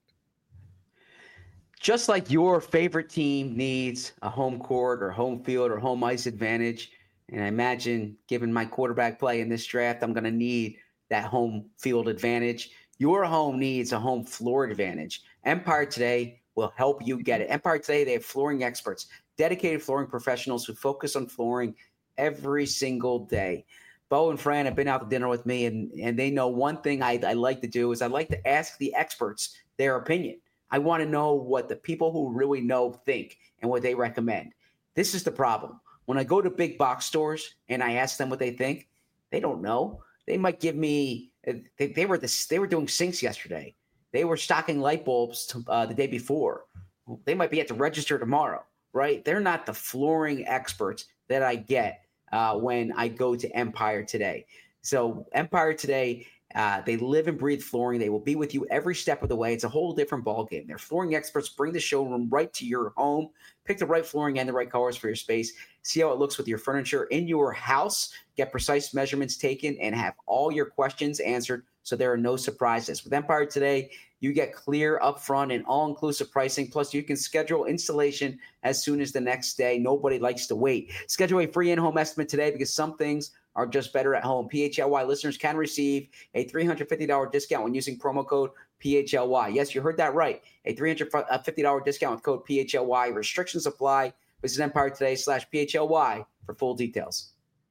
Just like your favorite team needs a home court or home field or home ice advantage, and I imagine given my quarterback play in this draft, I'm going to need that home field advantage. Your home needs a home floor advantage. Empire Today will help you get it. Empire Today, they have flooring experts, dedicated flooring professionals who focus on flooring every single day. Bo and Fran have been out to dinner with me, and they know one thing I like to do is I like to ask the experts their opinion. I want to know what the people who really know think and what they recommend. This is the problem. When I go to big box stores and I ask them what they think, they don't know. They might give me they were doing sinks yesterday. They were stocking light bulbs the day before. They might be at the register tomorrow, right? They're not the flooring experts that I get when I go to Empire Today. So Empire Today, they live and breathe flooring. They will be with you every step of the way. It's a whole different ballgame. Their flooring experts bring the showroom right to your home. Pick the right flooring and the right colors for your space. See how it looks with your furniture in your house. Get precise measurements taken and have all your questions answered so there are no surprises. With Empire Today, you get clear, upfront, and all-inclusive pricing. Plus, you can schedule installation as soon as the next day. Nobody likes to wait. Schedule a free in-home estimate today because some things are just better at home. PHLY listeners can receive a $350 discount when using promo code PHLY. Yes, you heard that right. A $350 discount with code PHLY. Restrictions apply. Visit Empire Today/PHLY for full details.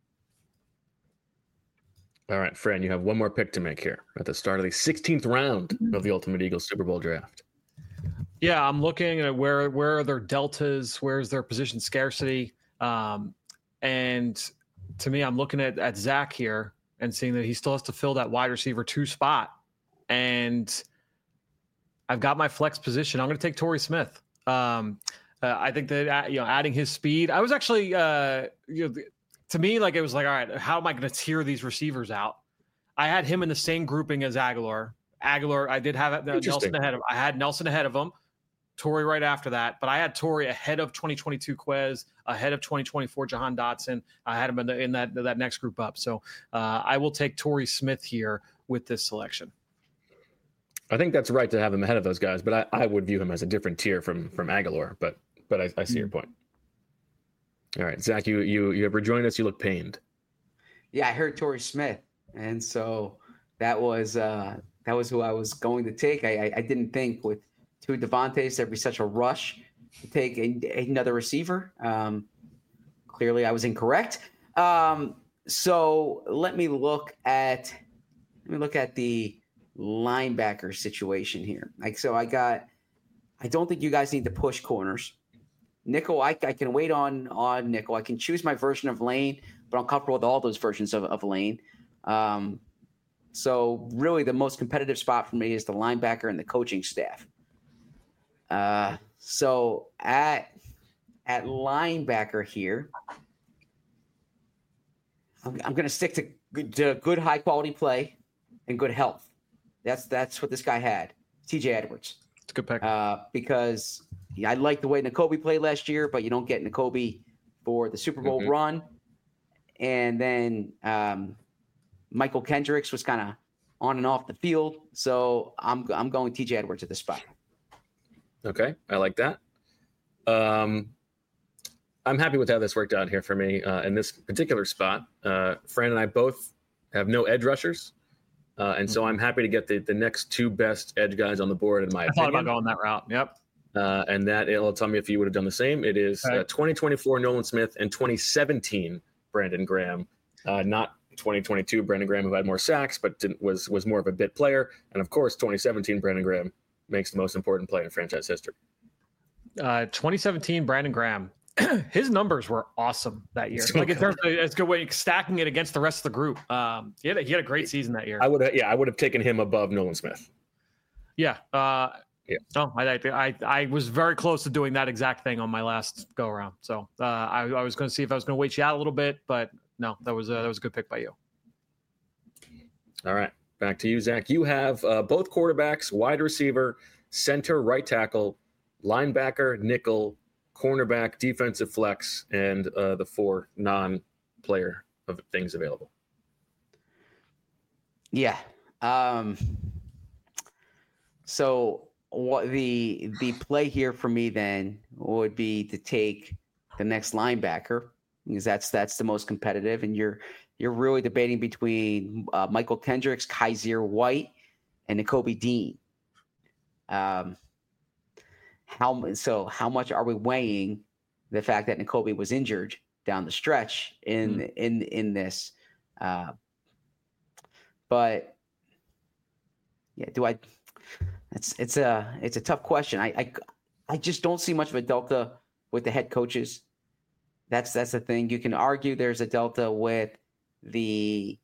All right, Fran, you have one more pick to make here at the start of the 16th round of the Ultimate Eagles Super Bowl draft. Yeah, I'm looking at where are their deltas, where's their position scarcity. And to me, I'm looking at Zach here. and seeing that he still has to fill that wide receiver 2 spot. And I've got my flex position. I'm going to take Torrey Smith. I think that adding his speed, I was actually to me, like, it was like, all right, how am I going to tier these receivers out? I had him in the same grouping as Aguilar. I did have Nelson ahead of. I had Nelson ahead of him, Torrey right after that, but I had Torrey ahead of 2022 Quez, ahead of 2024 Jahan Dotson. I had him in that next group up. So I will take Torrey Smith here with this selection. I think that's right to have him ahead of those guys, but I would view him as a different tier from Aguilar. But I see your point. All right, Zach, you have rejoined us. You look pained. Yeah, I heard Torrey Smith, and so that was who I was going to take. I didn't think with 2 Devontaes there'd be such a rush to take another receiver. Clearly, I was incorrect. So let me look at the linebacker situation here. I don't think you guys need to push corners. Nickel, I can wait on nickel. I can choose my version of Lane, but I'm comfortable with all those versions of Lane. So really the most competitive spot for me is the linebacker and the coaching staff. So at linebacker here, I'm going to stick to good high quality play and good health. That's what this guy had. TJ Edwards. It's a good pick. Because I like the way Nakobe played last year, but you don't get Nakobe for the Super Bowl run. And then Michael Kendricks was kind of on and off the field. So I'm going TJ Edwards at the spot. Okay, I like that. I'm happy with how this worked out here for me in this particular spot. Fran and I both have no edge rushers. And so I'm happy to get the next 2 best edge guys on the board, in my opinion. I thought about going that route. Yep. And that it'll tell me if you would have done the same. It is 2024 Nolan Smith and 2017 Brandon Graham. Not 2022 Brandon Graham, who had more sacks, but was more of a bit player. And of course, 2017 Brandon Graham makes the most important play in franchise history. 2017 Brandon Graham. His numbers were awesome that year. Like in terms of it's good way stacking it against the rest of the group. He had a great season that year. I would have taken him above Nolan Smith. Yeah. Yeah. No, I was very close to doing that exact thing on my last go around. So I was going to see if I was going to wait you out a little bit, but no, that was a good pick by you. All right, back to you, Zach. You have both quarterbacks, wide receiver, center, right tackle, linebacker, nickel, cornerback, defensive flex, and the 4 non-player of things available. Yeah. So what the play here for me then would be to take the next linebacker, because that's the most competitive, and you're really debating between Michael Kendricks, Kaiser White, and Nakobe Dean. How much are we weighing the fact that Nakobe was injured down the stretch in this? But yeah, it's a tough question. I just don't see much of a delta with the head coaches. That's the thing. You can argue there's a delta with the.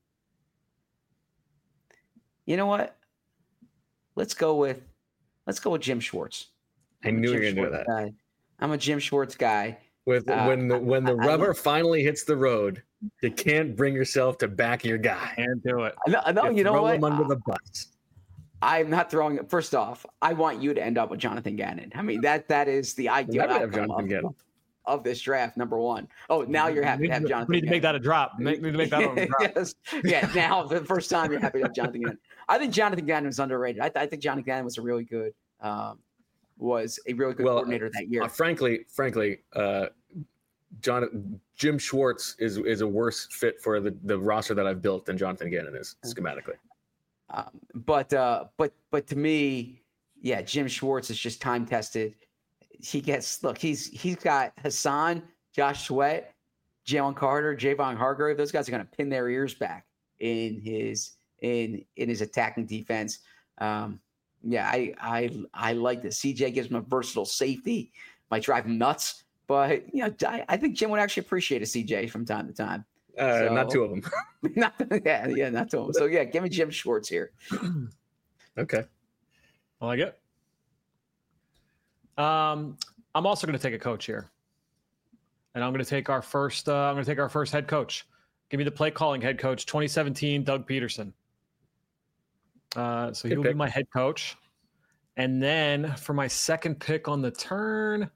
You know what? Let's go with Jim Schwartz. I knew you were going to do that. Guy. I'm a Jim Schwartz guy. When the rubber finally hits the road, you can't bring yourself to back your guy. Can't do it. I know. You know throw what? him under the bus. I'm not throwing it. First off, I want you to end up with Jonathan Gannon. I mean, that is the ideal outcome of this draft, number 1. Oh, now you're happy to have Jonathan We need to make that a drop. We need to make that a drop. Yes. Yeah, now for the first time you're happy to have Jonathan Gannon. I think Jonathan Gannon was underrated. I think Jonathan Gannon was a really good coordinator that year. Frankly, Jim Schwartz is a worse fit for the roster that I've built than Jonathan Gannon is schematically. But to me, yeah, Jim Schwartz is just time tested. He's got Hassan, Josh Sweat, Jalen Carter, Javon Hargrave. Those guys are going to pin their ears back in his attacking defense. Yeah, I like this. CJ gives him a versatile safety. Might drive him nuts, but I think Jim would actually appreciate a CJ from time to time. Not two of them. not two of them. So yeah, give me Jim Schwartz here. Okay. I like it. I'm also going to take a coach here, and I'm going to take our first. I'm going to take our first head coach. Give me the play calling head coach, 2017, Doug Peterson. So he will be my head coach, and then for my second pick on the turn,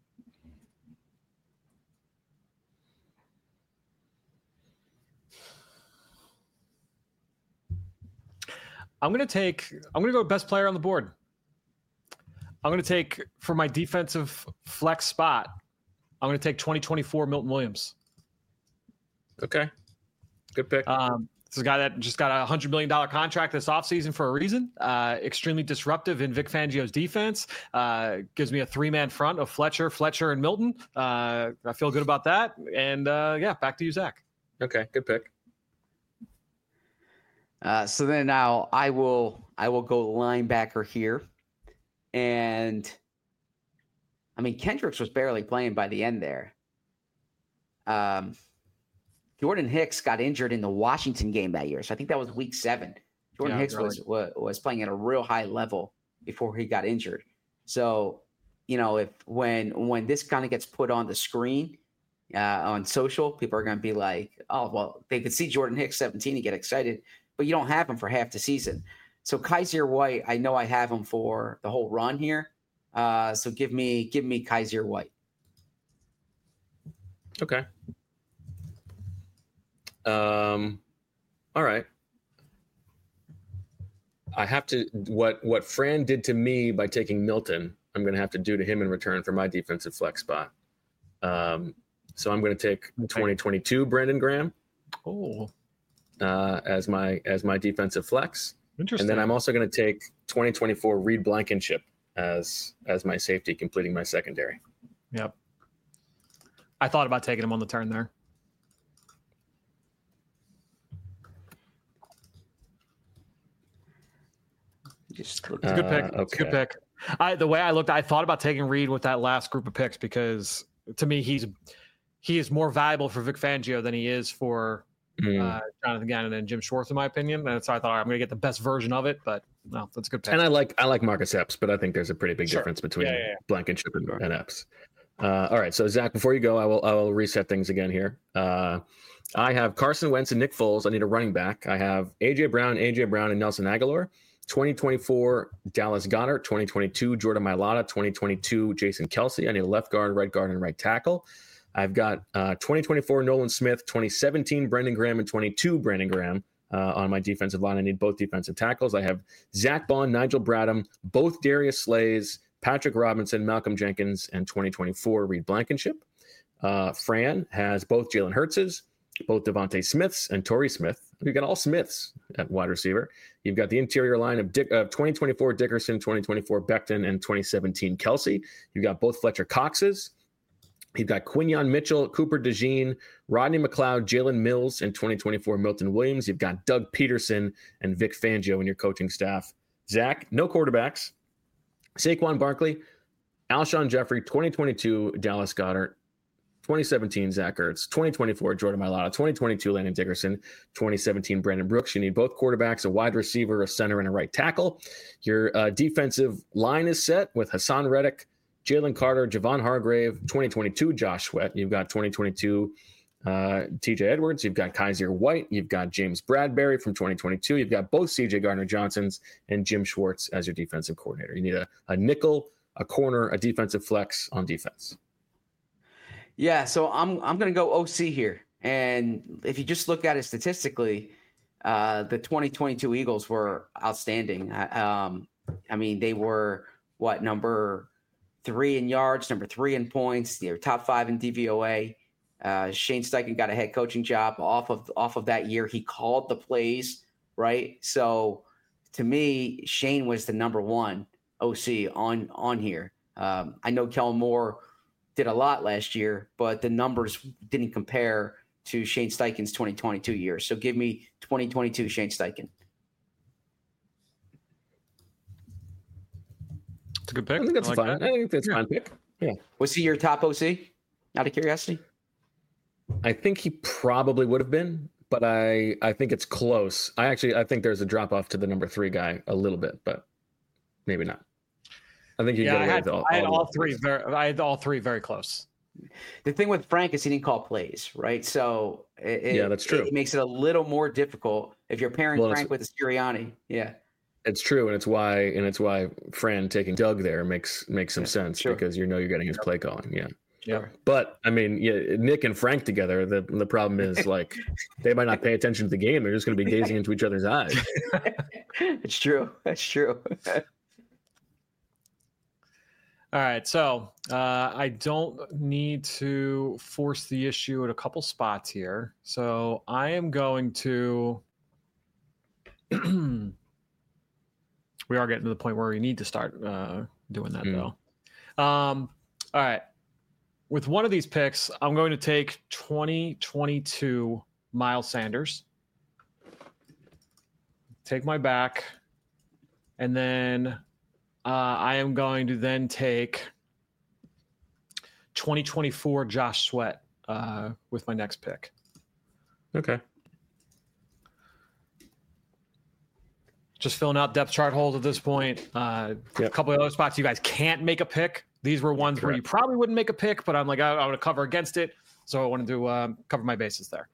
I'm going to go best player on the board. I'm going to take, for my defensive flex spot, I'm going to take 2024 Milton Williams. Okay. Good pick. This is a guy that just got a $100 million contract this offseason for a reason. Extremely disruptive in Vic Fangio's defense. Gives me a three-man front of Fletcher, and Milton. I feel good about that. And back to you, Zach. Okay, good pick. So then now I will go linebacker here. And I mean, Kendricks was barely playing by the end there. Jordan Hicks got injured in the Washington game that year. So I think that was week 7. Jordan Hicks was playing at a real high level before he got injured. So, if when this kind of gets put on the screen on social, people are going to be like, oh, well, they could see Jordan Hicks 17 and get excited, but you don't have him for half the season. So Kaiser White, I know I have him for the whole run here. So give me Kaiser White. Okay. All right. I have to what Fran did to me by taking Milton, I'm going to have to do to him in return for my defensive flex spot. So I'm going to take 2022 Brandon Graham. As my defensive flex. Interesting. And then I'm also going to take 2024 Reed Blankenship as my safety, completing my secondary. Yep. I thought about taking him on the turn there. It's a good pick. Okay. It's a good pick. The way I looked, I thought about taking Reed with that last group of picks because to me he is more valuable for Vic Fangio than he is for Jonathan Gannon and Jim Schwartz, in my opinion. And so I thought I'm going to get the best version of it, but no, that's a good pick. And I like Marcus Epps, but I think there's a pretty big difference between Blankenship and Epps. All right, so Zach, before you go, I will reset things again here. I have Carson Wentz and Nick Foles. I need a running back. I have AJ Brown, and Nelson Aguilar. 2024 Dallas Goedert. 2022 Jordan Mailata. 2022 Jason Kelce. I need a left guard, right guard, and right tackle. I've got 2024 Nolan Smith, 2017 Brandon Graham, and 22 Brandon Graham on my defensive line. I need both defensive tackles. I have Zach Bond, Nigel Bradham, both Darius Slays, Patrick Robinson, Malcolm Jenkins, and 2024 Reed Blankenship. Fran has both Jalen Hurtses, both Devontae Smiths, and Torrey Smith. You've got all Smiths at wide receiver. You've got the interior line of 2024 Dickerson, 2024 Becton, and 2017 Kelce. You've got both Fletcher Coxes. You've got Quinyon Mitchell, Cooper DeJean, Rodney McLeod, Jalen Mills, and 2024 Milton Williams. You've got Doug Peterson and Vic Fangio in your coaching staff. Zach, no quarterbacks. Saquon Barkley, Alshon Jeffrey, 2022 Dallas Goedert, 2017 Zach Ertz, 2024 Jordan Mailata, 2022 Landon Dickerson, 2017 Brandon Brooks. You need both quarterbacks, a wide receiver, a center, and a right tackle. Your defensive line is set with Hassan Reddick, Jalen Carter, Javon Hargrave, 2022 Josh Sweat. You've got 2022 TJ Edwards. You've got Kaiser White. You've got James Bradbury from 2022. You've got both CJ Gardner-Johnsons and Jim Schwartz as your defensive coordinator. You need a nickel, a corner, a defensive flex on defense. Yeah, so I'm going to go OC here. And if you just look at it statistically, the 2022 Eagles were outstanding. I mean, they were number 3 in yards, number 3 in points. They were top 5 in DVOA. Shane Steichen got a head coaching job off of that year. He called the plays, right? So to me, Shane was the number 1 OC on here. I know Kellen Moore did a lot last year, but the numbers didn't compare to Shane Steichen's 2022 year. So give me 2022 Shane Steichen. It's a good pick. I think that's fine. I think that's a fine pick. Yeah. Was he your top OC? Out of curiosity. I think he probably would have been, but I think it's close. I think there's a drop off to the number 3 guy a little bit, but maybe not. I think you get away with all. I had all three. I had all three very close. The thing with Frank is he didn't call plays, right? So that's true. It makes it a little more difficult if you're pairing Frank with a Sirianni. Yeah, it's true, and it's why Fran taking Doug there makes some sense because you're getting his play calling. Yeah. Yeah. But I mean, Nick and Frank together, the problem is like they might not pay attention to the game. They're just going to be gazing into each other's eyes. It's true. That's true. All right. So I don't need to force the issue at a couple spots here. So I am going to. We are getting to the point where we need to start doing that, though. All right. With one of these picks, I'm going to take 2022 Miles Sanders. Take my back. And then I am going to then take 2024 Josh Sweat with my next pick. Okay. Just filling out depth chart holes at this point. A couple of other spots you guys can't make a pick. These were ones where you probably wouldn't make a pick, but I'm like, I want to cover against it. So I wanted to cover my bases there.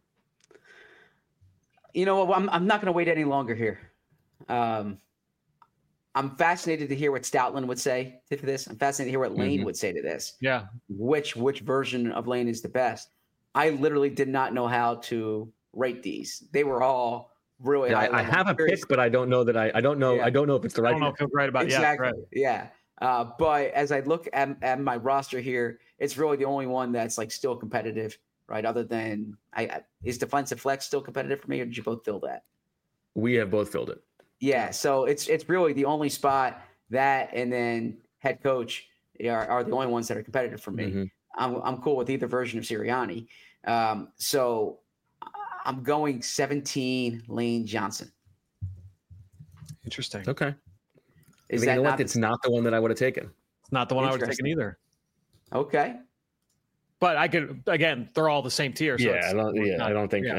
You know what? I'm not going to wait any longer here. I'm fascinated to hear what Stoutland would say to this. I'm fascinated to hear what Lane would say to this. Yeah. Which version of Lane is the best? I literally did not know how to rate these. They were all really. Yeah, I have a pick, but I don't know that I don't know. Yeah. I don't know if it's the right. I don't know if it's right about exactly. Yeah. But as I look at my roster here, it's really the only one that's like still competitive, right? Other than is defensive flex still competitive for me, or did you both fill that? We have both filled it. Yeah, so it's really the only spot that and then head coach are the only ones that are competitive for me. Mm-hmm. I'm cool with either version of Sirianni. So I'm going 17 Lane Johnson. Interesting. Okay. You know what? It's not the one that I would have taken. It's not the one I would have taken either. Okay. But I could, again, they're all the same tier. So I don't think.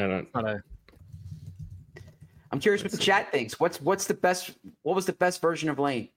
I'm curious what the chat thinks. What was the best version of Lane?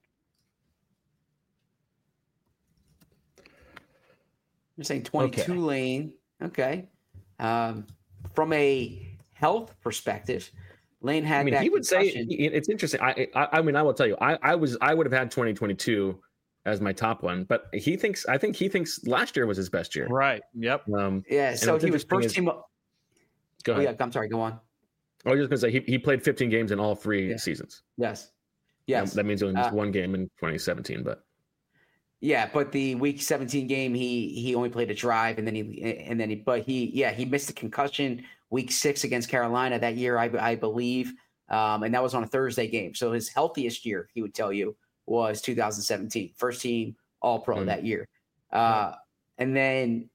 You're saying 22 Lane. Okay. From a health perspective, Lane had. I mean, he would say it's interesting. I mean, I will tell you, I would have had 2022 as my top one, but I think he thinks last year was his best year. Right. Yep. So he was first team. Go ahead. Oh, yeah. I'm sorry. Go on. I was just going to say he played 15 games in all 3 seasons. Yes. That means he only missed one game in 2017, but. Yeah, but the week 17 game, he only played a drive, and then he missed a concussion week 6 against Carolina that year, I believe, and that was on a Thursday game. So his healthiest year, he would tell you, was 2017, first team All Pro that year, and then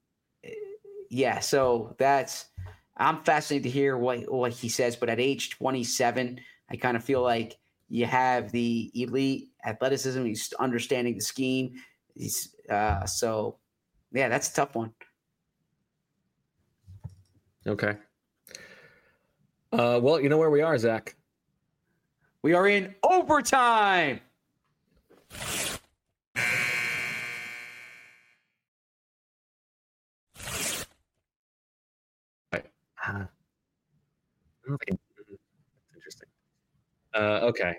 so I'm fascinated to hear what he says. But at age 27, I kind of feel like you have the elite athleticism, he's understanding the scheme. That's a tough one. Okay. Well, you know where we are, Zach. We are in overtime. That's interesting. Okay.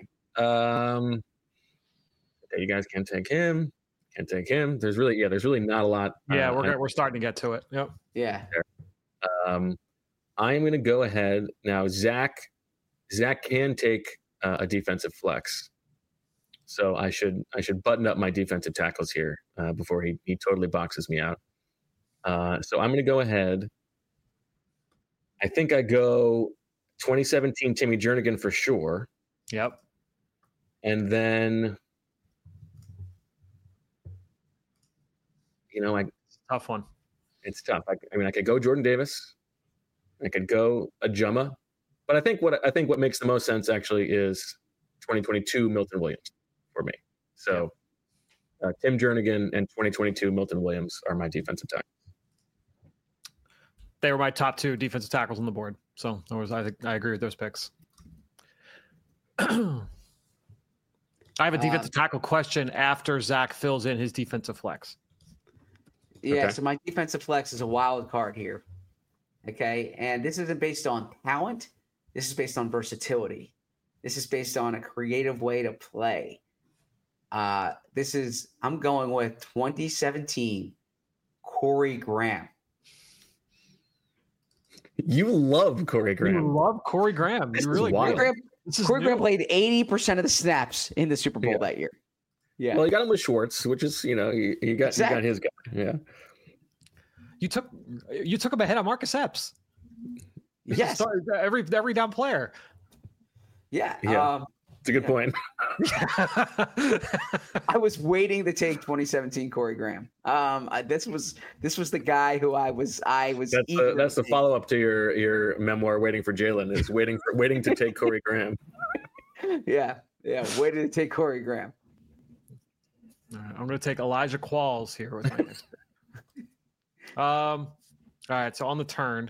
You guys can't take him. Can't take him. There's really not a lot. Yeah, we're starting to get to it. Yep. Yeah. I am going to go ahead now. Zach can take a defensive flex, so I should button up my defensive tackles here before he totally boxes me out. So I'm going to go ahead. I think I go 2017 Timmy Jernigan for sure. Yep. And then, tough one. It's tough. I mean, I could go Jordan Davis. I could go Ajuma, but I think what makes the most sense actually is 2022 Milton Williams for me. So Tim Jernigan and 2022 Milton Williams are my defensive tackles. They were my top 2 defensive tackles on the board. So I agree with those picks. I have a defensive tackle question after Zach fills in his defensive flex. Yeah, Okay. so my defensive flex is a wild card here. Okay, and this isn't based on talent. This is based on versatility. This is based on a creative way to play. I'm going with 2017 Corey Graham. You love Corey Graham. You love Corey Graham. This You is really wild. do. Corey Graham played 80% of the snaps in the Super Bowl that year. Yeah. Well, you got him with Schwartz, which is, you got his guy. Yeah. You took him ahead of Marcus Epps. Yes. Every down player. Yeah. Yeah. It's a good point. I was waiting to take 2017 Corey Graham. This was the guy who I was. That's the follow up to your memoir, Waiting for Jalen, is waiting to take Corey Graham. Yeah. Waiting to take Corey Graham. All right, I'm going to take Elijah Qualls here with my next pick. All right, so on the turn.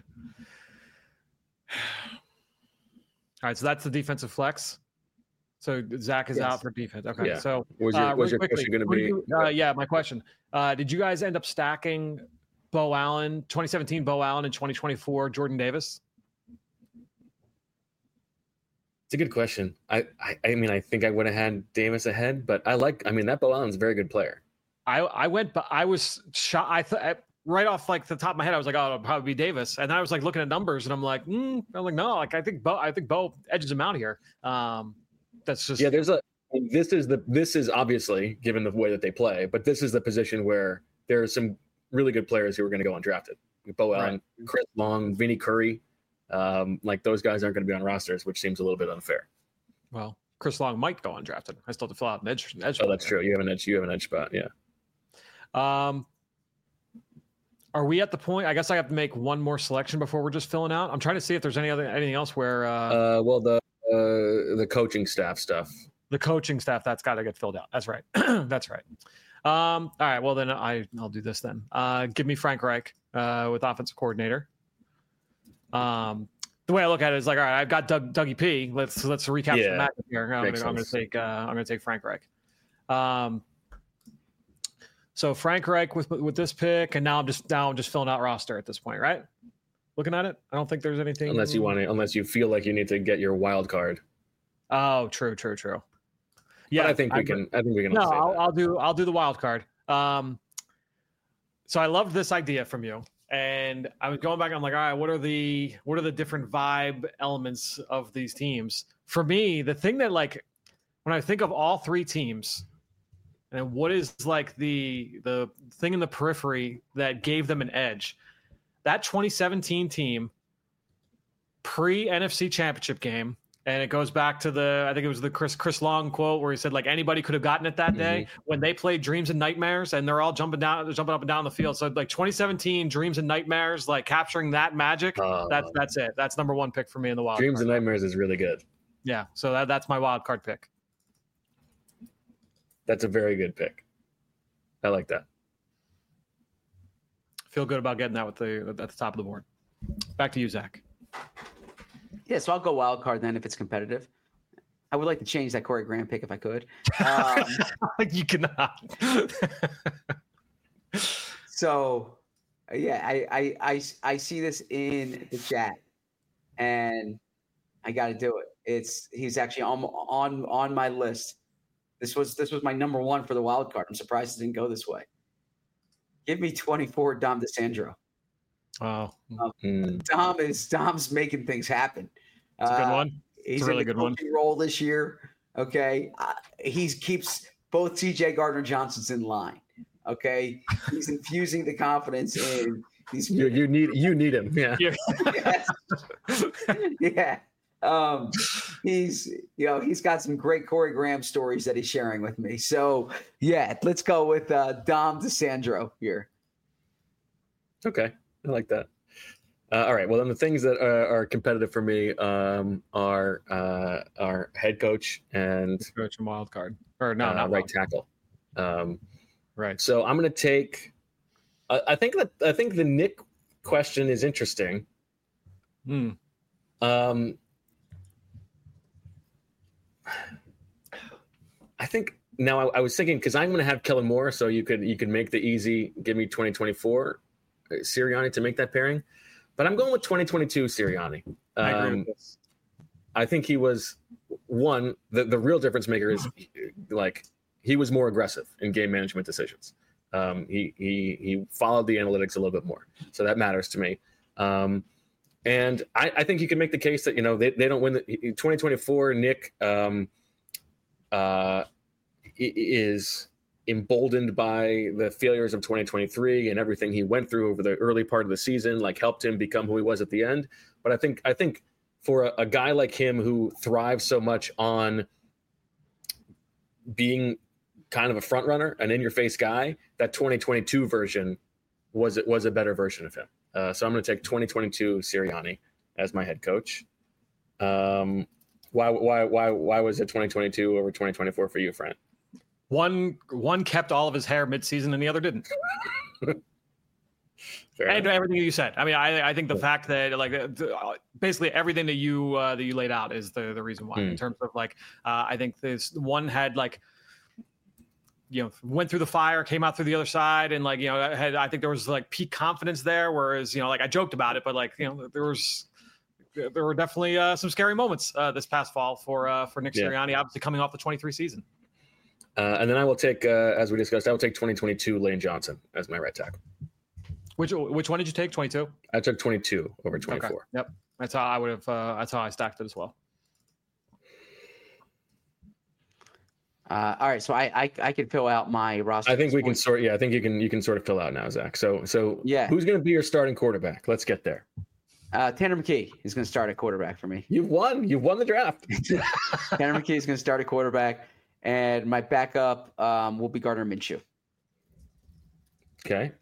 All right, so that's the defensive flex. So Zach is out for defense. Okay, Yeah. so Was your question going to be? Yeah, my question. Did you guys end up stacking Bo Allen, 2017 Bo Allen, and 2024 Jordan Davis? It's a good question. I mean, I think I would have had Davis ahead, but that Bo Allen's a very good player. I was shocked. I thought right off like the top of my head, I was like, oh, it'll probably be Davis. And then I was like looking at numbers, and I'm like, no, like I think Bo edges him out here. That's just this is obviously given the way that they play, but this is the position where there are some really good players who are going to go undrafted. Bo Allen, right. Chris Long, Vinny Curry, like those guys aren't going to be on rosters, which seems a little bit unfair. Well, Chris Long might go undrafted. I still have to fill out an edge. Oh, that's true. You have an edge spot. Yeah. Are we at the point? I guess I have to make one more selection before we're just filling out. I'm trying to see if there's anything else where. The coaching staff stuff. The coaching staff that's got to get filled out. That's right. That's right. All right. Well, then I'll do this then. Give me Frank Reich with offensive coordinator. The way I look at it is like, all right, I've got Dougie P. Let's recap the match here. I'm going to take Frank Reich. So Frank Reich with this pick, and now I'm just filling out roster at this point, right? Looking at it, I don't think there's anything unless you feel like you need to get your wild card. Oh, true. Yeah, but I think we can. No, I'll do the wild card. So I loved this idea from you, and I was going back. And I'm like, all right, what are the different vibe elements of these teams? For me, the thing that like when I think of all 3 teams. And what is like the thing in the periphery that gave them an edge? That 2017 team pre-NFC Championship game, and it goes back to I think it was the Chris Long quote where he said like anybody could have gotten it that day when they played Dreams and Nightmares, and they're all jumping up and down the field. So like 2017 Dreams and Nightmares, like capturing that magic. That's it. That's number 1 pick for me in the wild. Dreams and Nightmares is really good. Yeah, so that's my wild card pick. That's a very good pick. I like that. Feel good about getting that at the top of the board. Back to you, Zach. Yeah, so I'll go wild card then if it's competitive. I would like to change that Corey Graham pick if I could. You cannot. So, yeah, I see this in the chat, and I got to do it. He's actually on my list. This was my number 1 for the wild card. I'm surprised it didn't go this way. Give me 24 Dom DeSandro. Oh, Dom's making things happen. It's a good one. He's a really in the good one. Role this year. Okay, he keeps both TJ Gardner-Johnsons in line. Okay, he's infusing the confidence in these. You need him. Yeah. Yeah. He's got some great Corey Graham stories that he's sharing with me. So yeah, let's go with Dom DeSandro here. Okay, I like that. All right. Well, then the things that are competitive for me are head coach and wild card, or not right tackle. Right. So I'm going to take. I think the Nick question is interesting. Hmm. I think now I was thinking, because I'm going to have Kellen Moore, so you could make the easy, give me 2024 Sirianni to make that pairing, but I'm going with 2022 Sirianni. I agree with this. I think he was the real difference maker is like he was more aggressive in game management decisions. He followed the analytics a little bit more, so that matters to me. And I think you can make the case that they don't win the 2024. Nick is emboldened by the failures of 2023 and everything he went through over the early part of the season, like helped him become who he was at the end. But I think for a guy like him who thrives so much on being kind of a front runner, an in-your-face guy, that 2022 version was a better version of him. So I'm going to take 2022 Sirianni as my head coach. Why was it 2022 over 2024 for you, Frank? One kept all of his hair mid-season and the other didn't. And everything you said. I mean, I think the fact that basically everything that you laid out is the reason why. In terms of I think this one had went through the fire, came out through the other side, and I think there was peak confidence there. Whereas I joked about it, but there were definitely some scary moments this past fall for Nick Sirianni, obviously coming off the 23 season. And then I will take, as we discussed, I will take 2022 Lane Johnson as my right tackle. Which one did you take? 22? I took 22 over 24. Okay. Yep, that's how I would have. That's how I stacked it as well. All right, so I can fill out my roster. I think we can sort. Yeah, I think you can sort of fill out now, Zach. So yeah, who's going to be your starting quarterback? Let's get there. Tanner McKee is going to start at quarterback for me. You've won the draft. Tanner McKee is going to start at quarterback, and my backup will be Gardner Minshew. Okay.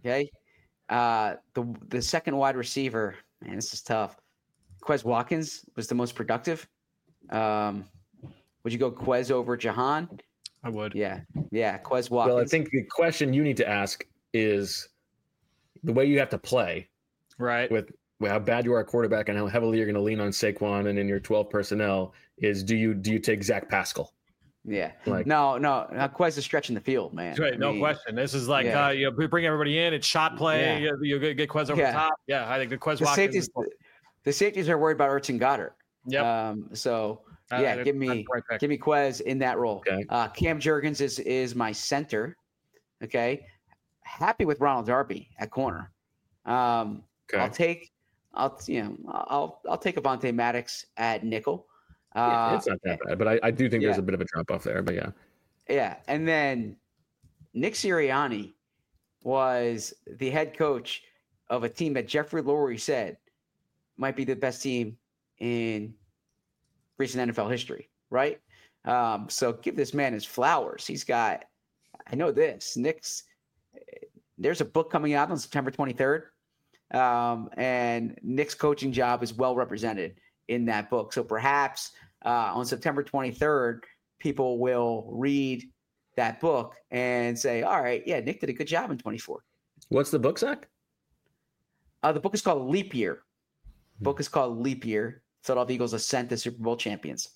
The second wide receiver, man, this is tough. Quez Watkins was the most productive. Would you go Quez over Jahan? I would. Yeah, Quez Watkins. Well, I think the question you need to ask is the way you have to play, right? With how bad you are at quarterback and how heavily you're going to lean on Saquon and in your 12 personnel is do you take Zach Pascal? Yeah. No, Quez is stretching the field, man. Right, no question. This is we bring everybody in. It's shot play. Yeah. You get Quez over the top. Yeah, I think the Quez Watkins. The safeties are worried about Ertz and Goddard. Yep. Give me Quez in that role. Okay. Cam Jurgens is my center. Okay. Happy with Ronald Darby at corner. Okay. I'll take Avonte Maddox at nickel. It's not that bad, but I do think there's a bit of a drop off there. But yeah. Yeah, and then Nick Sirianni was the head coach of a team that Jeffrey Lurie said might be the best team in recent NFL history, right? So give this man his flowers. He's got, I know this, there's a book coming out on September 23rd. And Nick's coaching job is well represented in that book. So perhaps on September 23rd, people will read that book and say, all right, yeah, Nick did a good job in 24. What's the book, Zach? The book is called Leap Year. Philadelphia Eagles Ascent to Super Bowl Champions.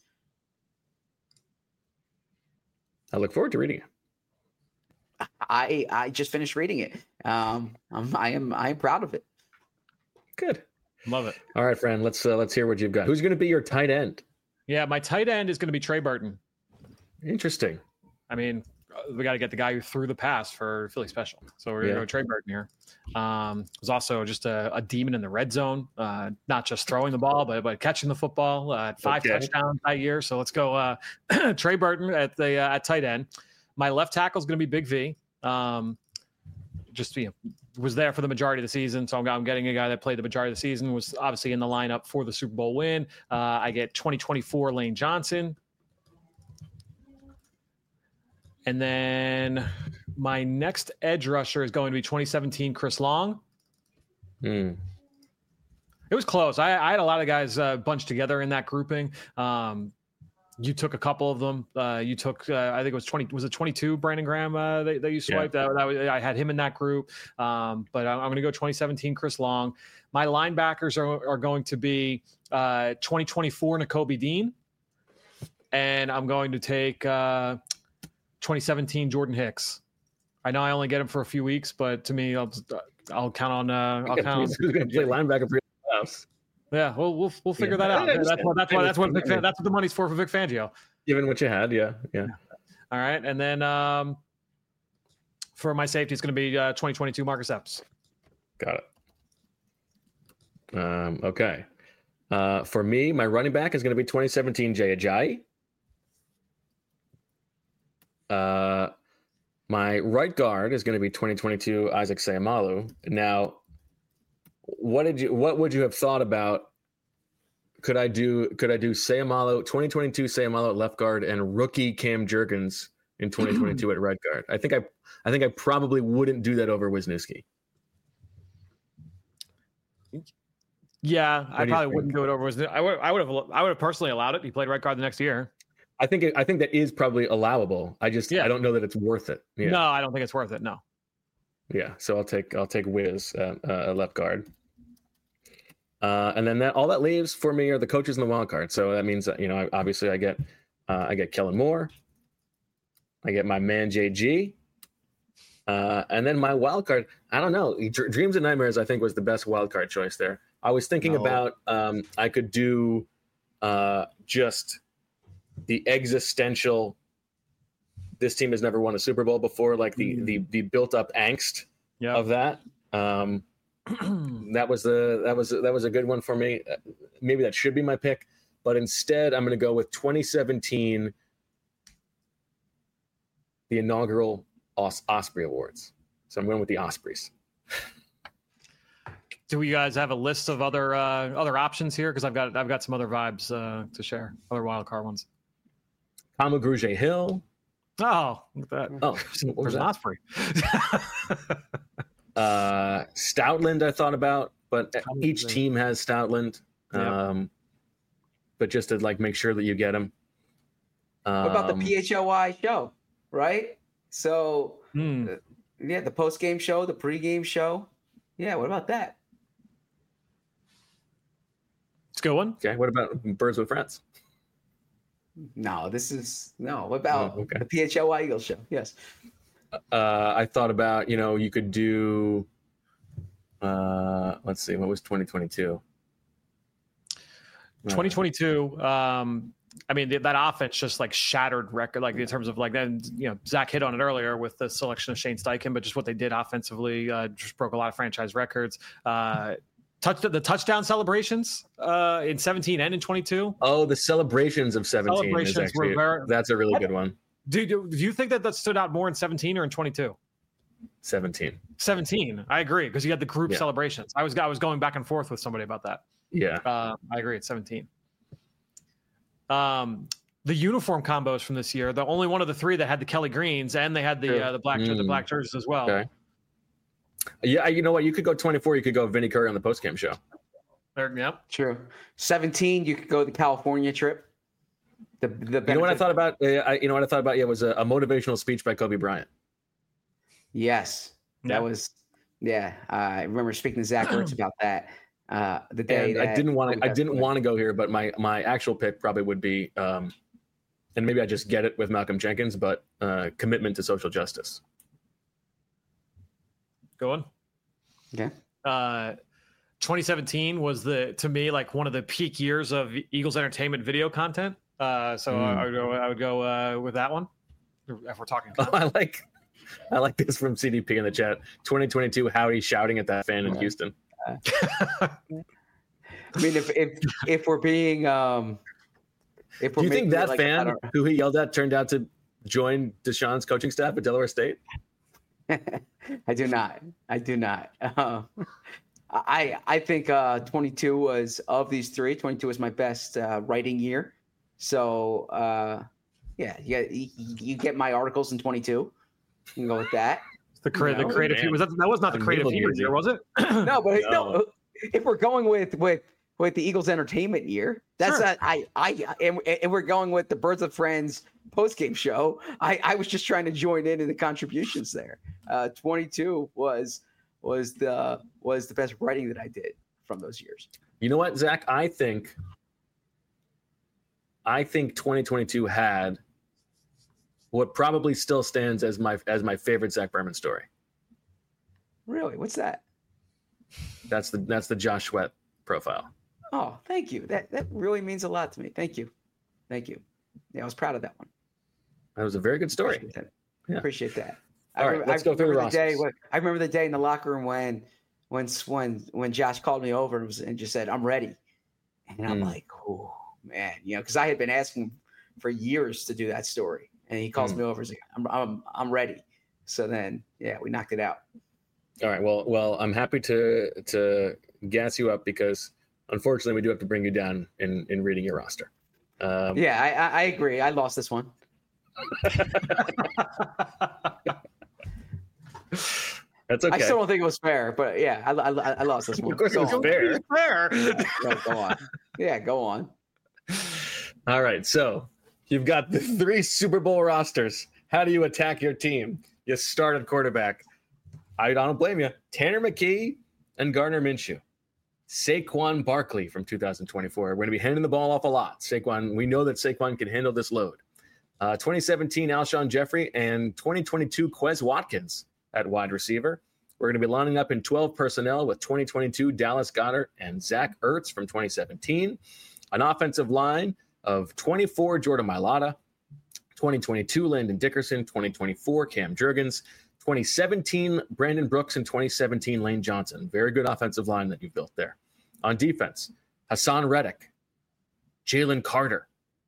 I look forward to reading it. I just finished reading it. I am proud of it. Good. Love it. All right, friend. Let's hear what you've got. Who's going to be your tight end? Yeah, my tight end is going to be Trey Burton. Interesting. I mean, we got to get the guy who threw the pass for Philly Special. So we're going to go Trey Burton here. Was also just a demon in the red zone, not just throwing the ball, but catching the football. 5 touchdowns that year. So let's go Trey Burton at tight end. My left tackle is going to be Big V. Was there for the majority of the season. So I'm getting a guy that played the majority of the season, was obviously in the lineup for the Super Bowl win. I get 2024 Lane Johnson. And then my next edge rusher is going to be 2017 Chris Long. It was close. I had a lot of guys bunched together in that grouping. You took a couple of them. You took, I think it was 20. Was it 22? Brandon Graham that you swiped. Yeah. I had him in that group. But I'm going to go 2017 Chris Long. My linebackers are going to be 2024 Nakobe Dean, and I'm going to take 2017 Jordan Hicks. I know I only get him for a few weeks, but to me, I'll count on. I'll count on. Who's going to play linebacker for your playoffs? Yeah, we'll figure that out. That's what the money's for Vic Fangio. Given what you had, yeah. All right, and then for my safety, it's going to be 2022 Marcus Epps. Got it. Okay. For me, my running back is going to be 2017 Jay Ajayi. My right guard is going to be 2022 Isaac Seumalo. Now, what would you have thought about? Could I do Seumalo 2022 Seumalo at left guard and rookie Cam Jurgens in 2022 at right guard? I think I probably wouldn't do that over Wisniewski. Yeah, I probably wouldn't do it over Wisniewski. I would have personally allowed it. He played right guard the next year. I think that is probably allowable. I don't know that it's worth it. Yeah. No, I don't think it's worth it. No. Yeah, so I'll take Wiz at left guard, and then all that leaves for me are the coaches and the wild card. So that means that obviously I get Kellen Moore, I get my man JG, and then my wild card. I don't know. Dreams and Nightmares I think was the best wild card choice there. I was thinking about I could do just the existential. This team has never won a Super Bowl before, like the built up angst of that. That was a good one for me. Maybe that should be my pick, but instead I'm going to go with 2017, the inaugural Osprey Awards. So I'm going with the Ospreys. Do you guys have a list of other options here? Because I've got some other vibes to share, other wild card ones. Kamu Grugier-Hill. Oh, look at that. Oh, there's an Osprey. Stoutland I thought about, but each team has Stoutland. Yeah. But just to make sure that you get them. What about the PHLY show, right? So, the post-game show, the pre-game show. Yeah, what about that? It's a good one. Okay, what about Birds with Friends? No, what about the PHLY Eagles show? Yes. I thought about, you could do, let's see, what was 2022? 2022, I mean, that offense just shattered record, in terms of then, Zach hit on it earlier with the selection of Shane Steichen, but just what they did offensively just broke a lot of franchise records. The touchdown celebrations in 17 and in 22. Oh, the celebrations of 17 is actually, that's a really good one. Do you think that stood out more in 17 or in 22? 17. 17. I agree, because you had the group celebrations. I was going back and forth with somebody about that. Yeah. I agree. It's 17. The uniform combos from this year, the only one of the three that had the Kelly Greens, and they had the black jerseys as well. Okay. Yeah, you know what? You could go 24. You could go Vinny Curry on the postgame show. Yep. True. 17. You could go the California trip. The you know what I thought about? Yeah, was a motivational speech by Kobe Bryant. Yes, that was. Yeah, I remember speaking to Zach Ertz about that. The day I didn't want to go here, but my actual pick probably would be, and maybe I just get it with Malcolm Jenkins, but commitment to social justice. Go on. Okay. 2017 was to me one of the peak years of Eagles entertainment video content. I would go with that one. If we're talking. Oh, I like this from CDP in the chat. 2022, Howdy shouting at that fan in Houston. I mean, if we're being, do you think that fan who he yelled at turned out to join Deshaun's coaching staff at Delaware State? I do not. I think 22 was, of these three, 22 was my best writing year. So you get my articles in 22. You can go with that. The creative that was not the creative year, was it? No, but no. If we're going with with the Eagles entertainment year. That's Sure. and we're going with the Birds of Friends post-game show. I was just trying to join in the contributions there. 22 was the best writing that I did from those years. You know what, Zach? I think 2022 had what probably still stands as my favorite Zach Berman story. Really? What's that? That's the Josh Sweat profile. Oh, thank you. That really means a lot to me. Thank you. Yeah, I was proud of that one. That was a very good story. Appreciate that. All right, let's go through the rosters. I remember the day in the locker room when Josh called me over and just said, "I'm ready," and I'm like, "Oh man," because I had been asking for years to do that story, and he calls me over and says, "I'm ready." So then, yeah, we knocked it out. All right. Well, I'm happy to gas you up because unfortunately we do have to bring you down in reading your roster. Yeah, I agree. I lost this one. That's okay. I still don't think it was fair, but yeah, I lost this one. Of course, it was fair. Go on. Yeah, go on. All right. So you've got the 3 Super Bowl rosters. How do you attack your team? You start at quarterback. I don't blame you. Tanner McKee and Gardner Minshew. Saquon Barkley from 2024. We're going to be handing the ball off a lot. Saquon, we know that Saquon can handle this load. 2017 Alshon Jeffrey and 2022 Quez Watkins at wide receiver. We're going to be lining up in 12 personnel with 2022 Dallas Goedert and Zach Ertz from 2017. An offensive line of 24 Jordan Mailata, 2022 Landon Dickerson, 2024 Cam Jurgens, 2017 Brandon Brooks, and 2017 Lane Johnson. Very good offensive line that you've built there. On defense, Hassan Reddick, Jalen Carter,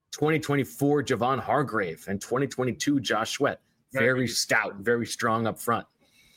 2024 Javon Hargrave, and 2022 Josh Sweat. Very stout, very strong up front.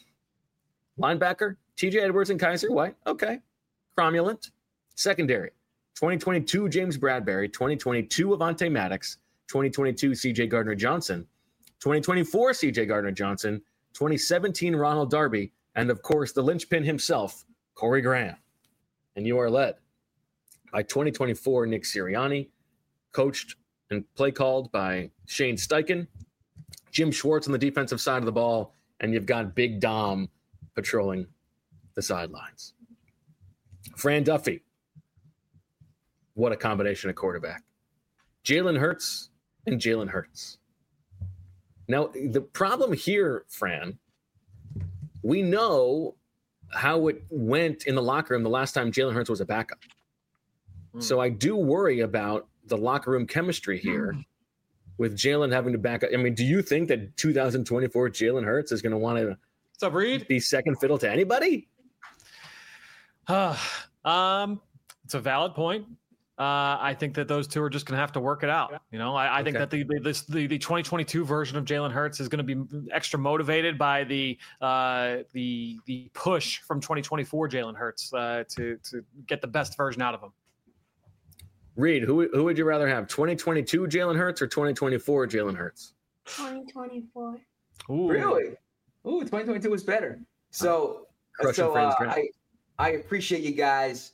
Linebacker, TJ Edwards and Kaiser White. Okay. Cromulent. Secondary, 2022 James Bradbury, 2022 Avonte Maddox, 2022 CJ Gardner-Johnson, 2024 CJ Gardner-Johnson, 2017 Ronald Darby, and of course the linchpin himself, Corey Graham. And you are led by 2024 Nick Sirianni, coached and play called by Shane Steichen, Jim Schwartz on the defensive side of the ball, and you've got Big Dom patrolling the sidelines. Fran Duffy, what a combination of quarterback. Jalen Hurts and Jalen Hurts. Now, the problem here, Fran, we know how it went in the locker room the last time Jalen Hurts was a backup. So I do worry about the locker room chemistry here with Jalen having to back up. I mean, do you think that 2024 Jalen Hurts is going to want to be second fiddle to anybody? It's a valid point. I think that those two are just going to have to work it out. I think that the 2022 version of Jalen Hurts is going to be extra motivated by the push from 2024 Jalen Hurts to get the best version out of him. Reed, who would you rather have, 2022 Jalen Hurts or 2024 Jalen Hurts? 2024. Ooh. Really? Ooh, 2022 was better. So I appreciate you guys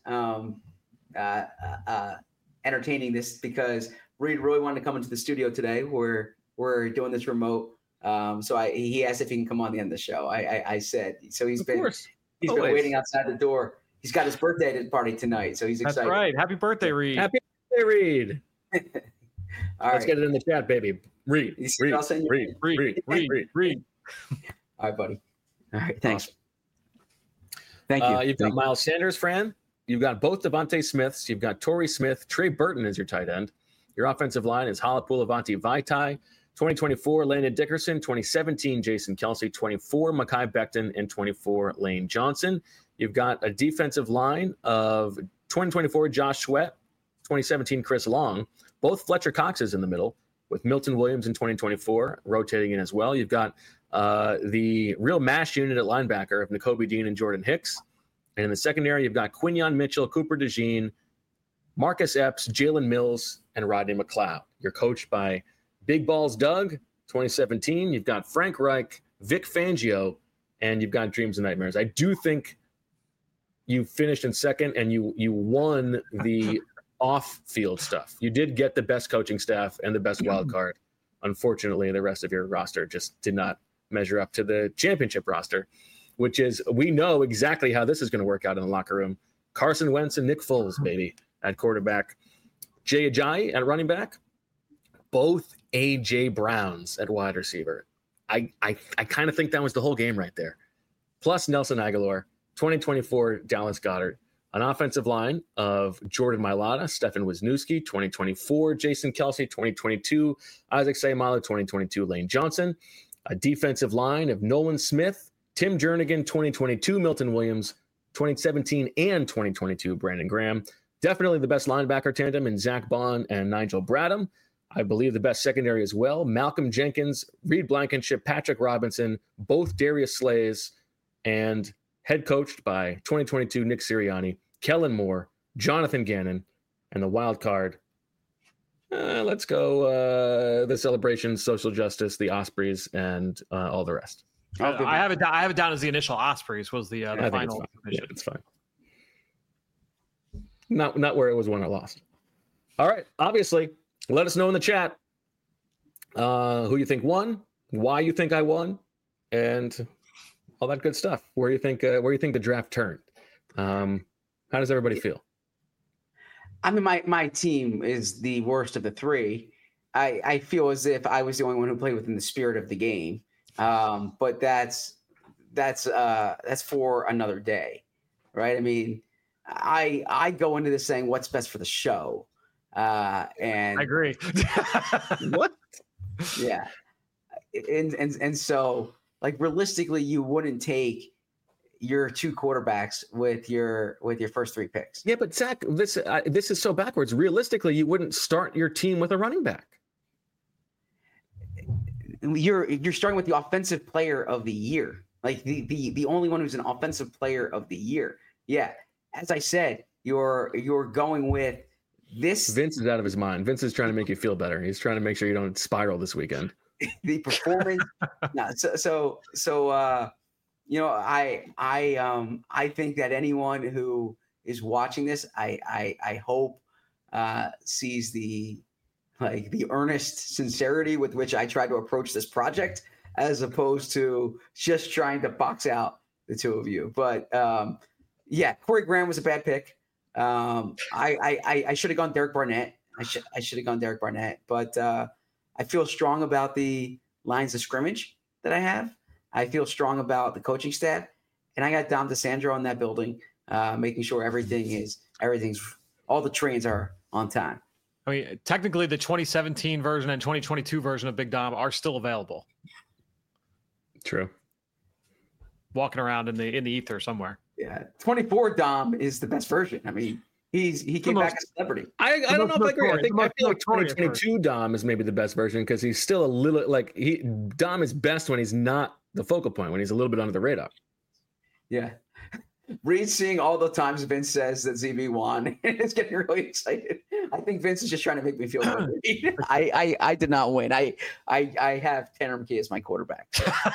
entertaining this because Reed really wanted to come into the studio today. We're doing this remote. So he asked if he can come on the end of the show. I said, so he's been waiting outside the door. He's got his birthday party tonight, so he's excited. That's right. Happy birthday, Reed. Happy birthday, Reed. Let's get it in the chat, baby. Reed. Reed. All right, buddy. All right, thanks. Thank you. You've got Miles Sanders, Fran. You've got both Devontae Smiths. You've got Torrey Smith. Trey Burton is your tight end. Your offensive line is Halapoulivaati Vaitai. 2024 Landon Dickerson. 2017 Jason Kelsey. 24 Mekhi Becton. And 24 Lane Johnson. You've got a defensive line of 2024 Josh Sweat. 2017 Chris Long. Both Fletcher Coxes in the middle with Milton Williams in 2024 rotating in as well. You've got the real mash unit at linebacker of Nakobe Dean and Jordan Hicks. And in the secondary, you've got Quinyon Mitchell, Cooper DeJean, Marcus Epps, Jalen Mills, and Rodney McLeod. You're coached by Big Balls Doug, 2017. You've got Frank Reich, Vic Fangio, and you've got Dreams and Nightmares. I do think you finished in second and you won the off-field stuff. You did get the best coaching staff and the best wild card. Unfortunately, the rest of your roster just did not measure up to the championship roster, which is, we know exactly how this is going to work out in the locker room. Carson Wentz and Nick Foles, baby, at quarterback. Jay Ajayi at running back. Both A.J. Browns at wide receiver. I kind of think that was the whole game right there. Plus Nelson Aguilar, 2024 Dallas Goedert. An offensive line of Jordan Mailata, Stefan Wisniewski, 2024 Jason Kelce, 2022 Isaac Seumalo, 2022 Lane Johnson. A defensive line of Nolan Smith, Tim Jernigan, 2022 Milton Williams, 2017 and 2022 Brandon Graham. Definitely the best linebacker tandem in Zach Bond and Nigel Bradham. I believe the best secondary as well. Malcolm Jenkins, Reed Blankenship, Patrick Robinson, both Darius Slays, and head coached by 2022 Nick Sirianni, Kellen Moore, Jonathan Gannon, and the wild card. Let's go the Celebration, Social Justice, the Ospreys, and all the rest. I have it down as the initial Ospreys was the final. Yeah, it's fine. Not where it was won or lost. All right. Obviously, let us know in the chat who you think won, why you think I won, and all that good stuff. Where you think the draft turned. How does everybody feel? I mean, my team is the worst of the three. I feel as if I was the only one who played within the spirit of the game. But that's for another day, right? I mean, I go into this saying what's best for the show. And I agree. What? Yeah. And so, like, realistically, you wouldn't take your two quarterbacks with your first three picks. Yeah, but Zach, this is so backwards. Realistically, you wouldn't start your team with a running back. You're starting with the offensive player of the year, like the only one who's an offensive player of the year. Yeah, as I said, you're going with this. Vince is out of his mind. Vince is trying to make you feel better. He's trying to make sure you don't spiral this weekend. The performance. No, so you know, I think that anyone who is watching this, I hope sees the earnest sincerity with which I try to approach this project, as opposed to just trying to box out the two of you. But yeah, Corey Graham was a bad pick. I should have gone Derek Barnett. I should have gone Derek Barnett, but I feel strong about the lines of scrimmage that I have. I feel strong about the coaching staff, and I got Dom DeSandro in that building, making sure everything's all the trains are on time. I mean, technically, the 2017 version and 2022 version of Big Dom are still available. True. Walking around in the ether somewhere. Yeah, 24 Dom is the best version. I mean, he came back a celebrity. I don't know if I agree. I feel like 2022 Dom is maybe the best version because he's still a little Dom is best when he's not the focal point, when he's a little bit under the radar. Yeah. Reed seeing all the times Vince says that ZB won, it's getting really excited. I think Vince is just trying to make me feel good. I did not win. I have Tanner McKee as my quarterback.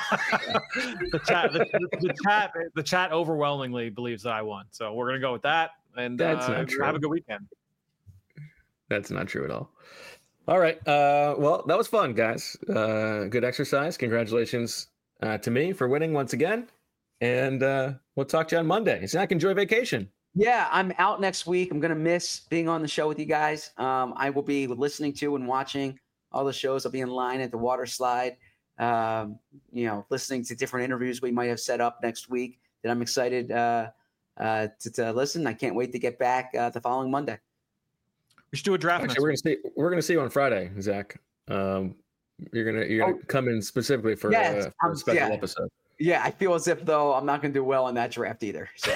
The chat overwhelmingly believes that I won. So we're gonna go with that, and have a good weekend. That's not true at all. All right. Well, that was fun, guys. Good exercise. Congratulations to me for winning once again. And we'll talk to you on Monday. Zach, enjoy vacation. Yeah, I'm out next week. I'm going to miss being on the show with you guys. I will be listening to and watching all the shows. I'll be in line at the water slide, listening to different interviews we might have set up next week that I'm excited to listen. I can't wait to get back the following Monday. We should do a draft. Actually, we're gonna see you on Friday, Zach. You're gonna come in specifically for a special episode. Yeah, I feel as if though I'm not gonna do well in that draft either. So.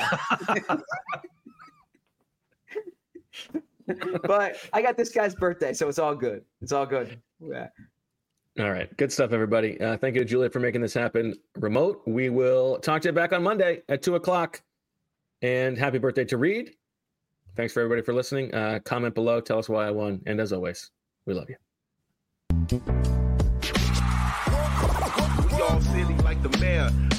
But I got this guy's birthday, so it's all good. It's all good. Yeah. All right, good stuff, everybody. Thank you to Juliet for making this happen remote. We will talk to you back on Monday at 2:00. And happy birthday to Reed. Thanks for everybody for listening. Comment below. Tell us why I won. And as always, we love you. We all silly like the mayor.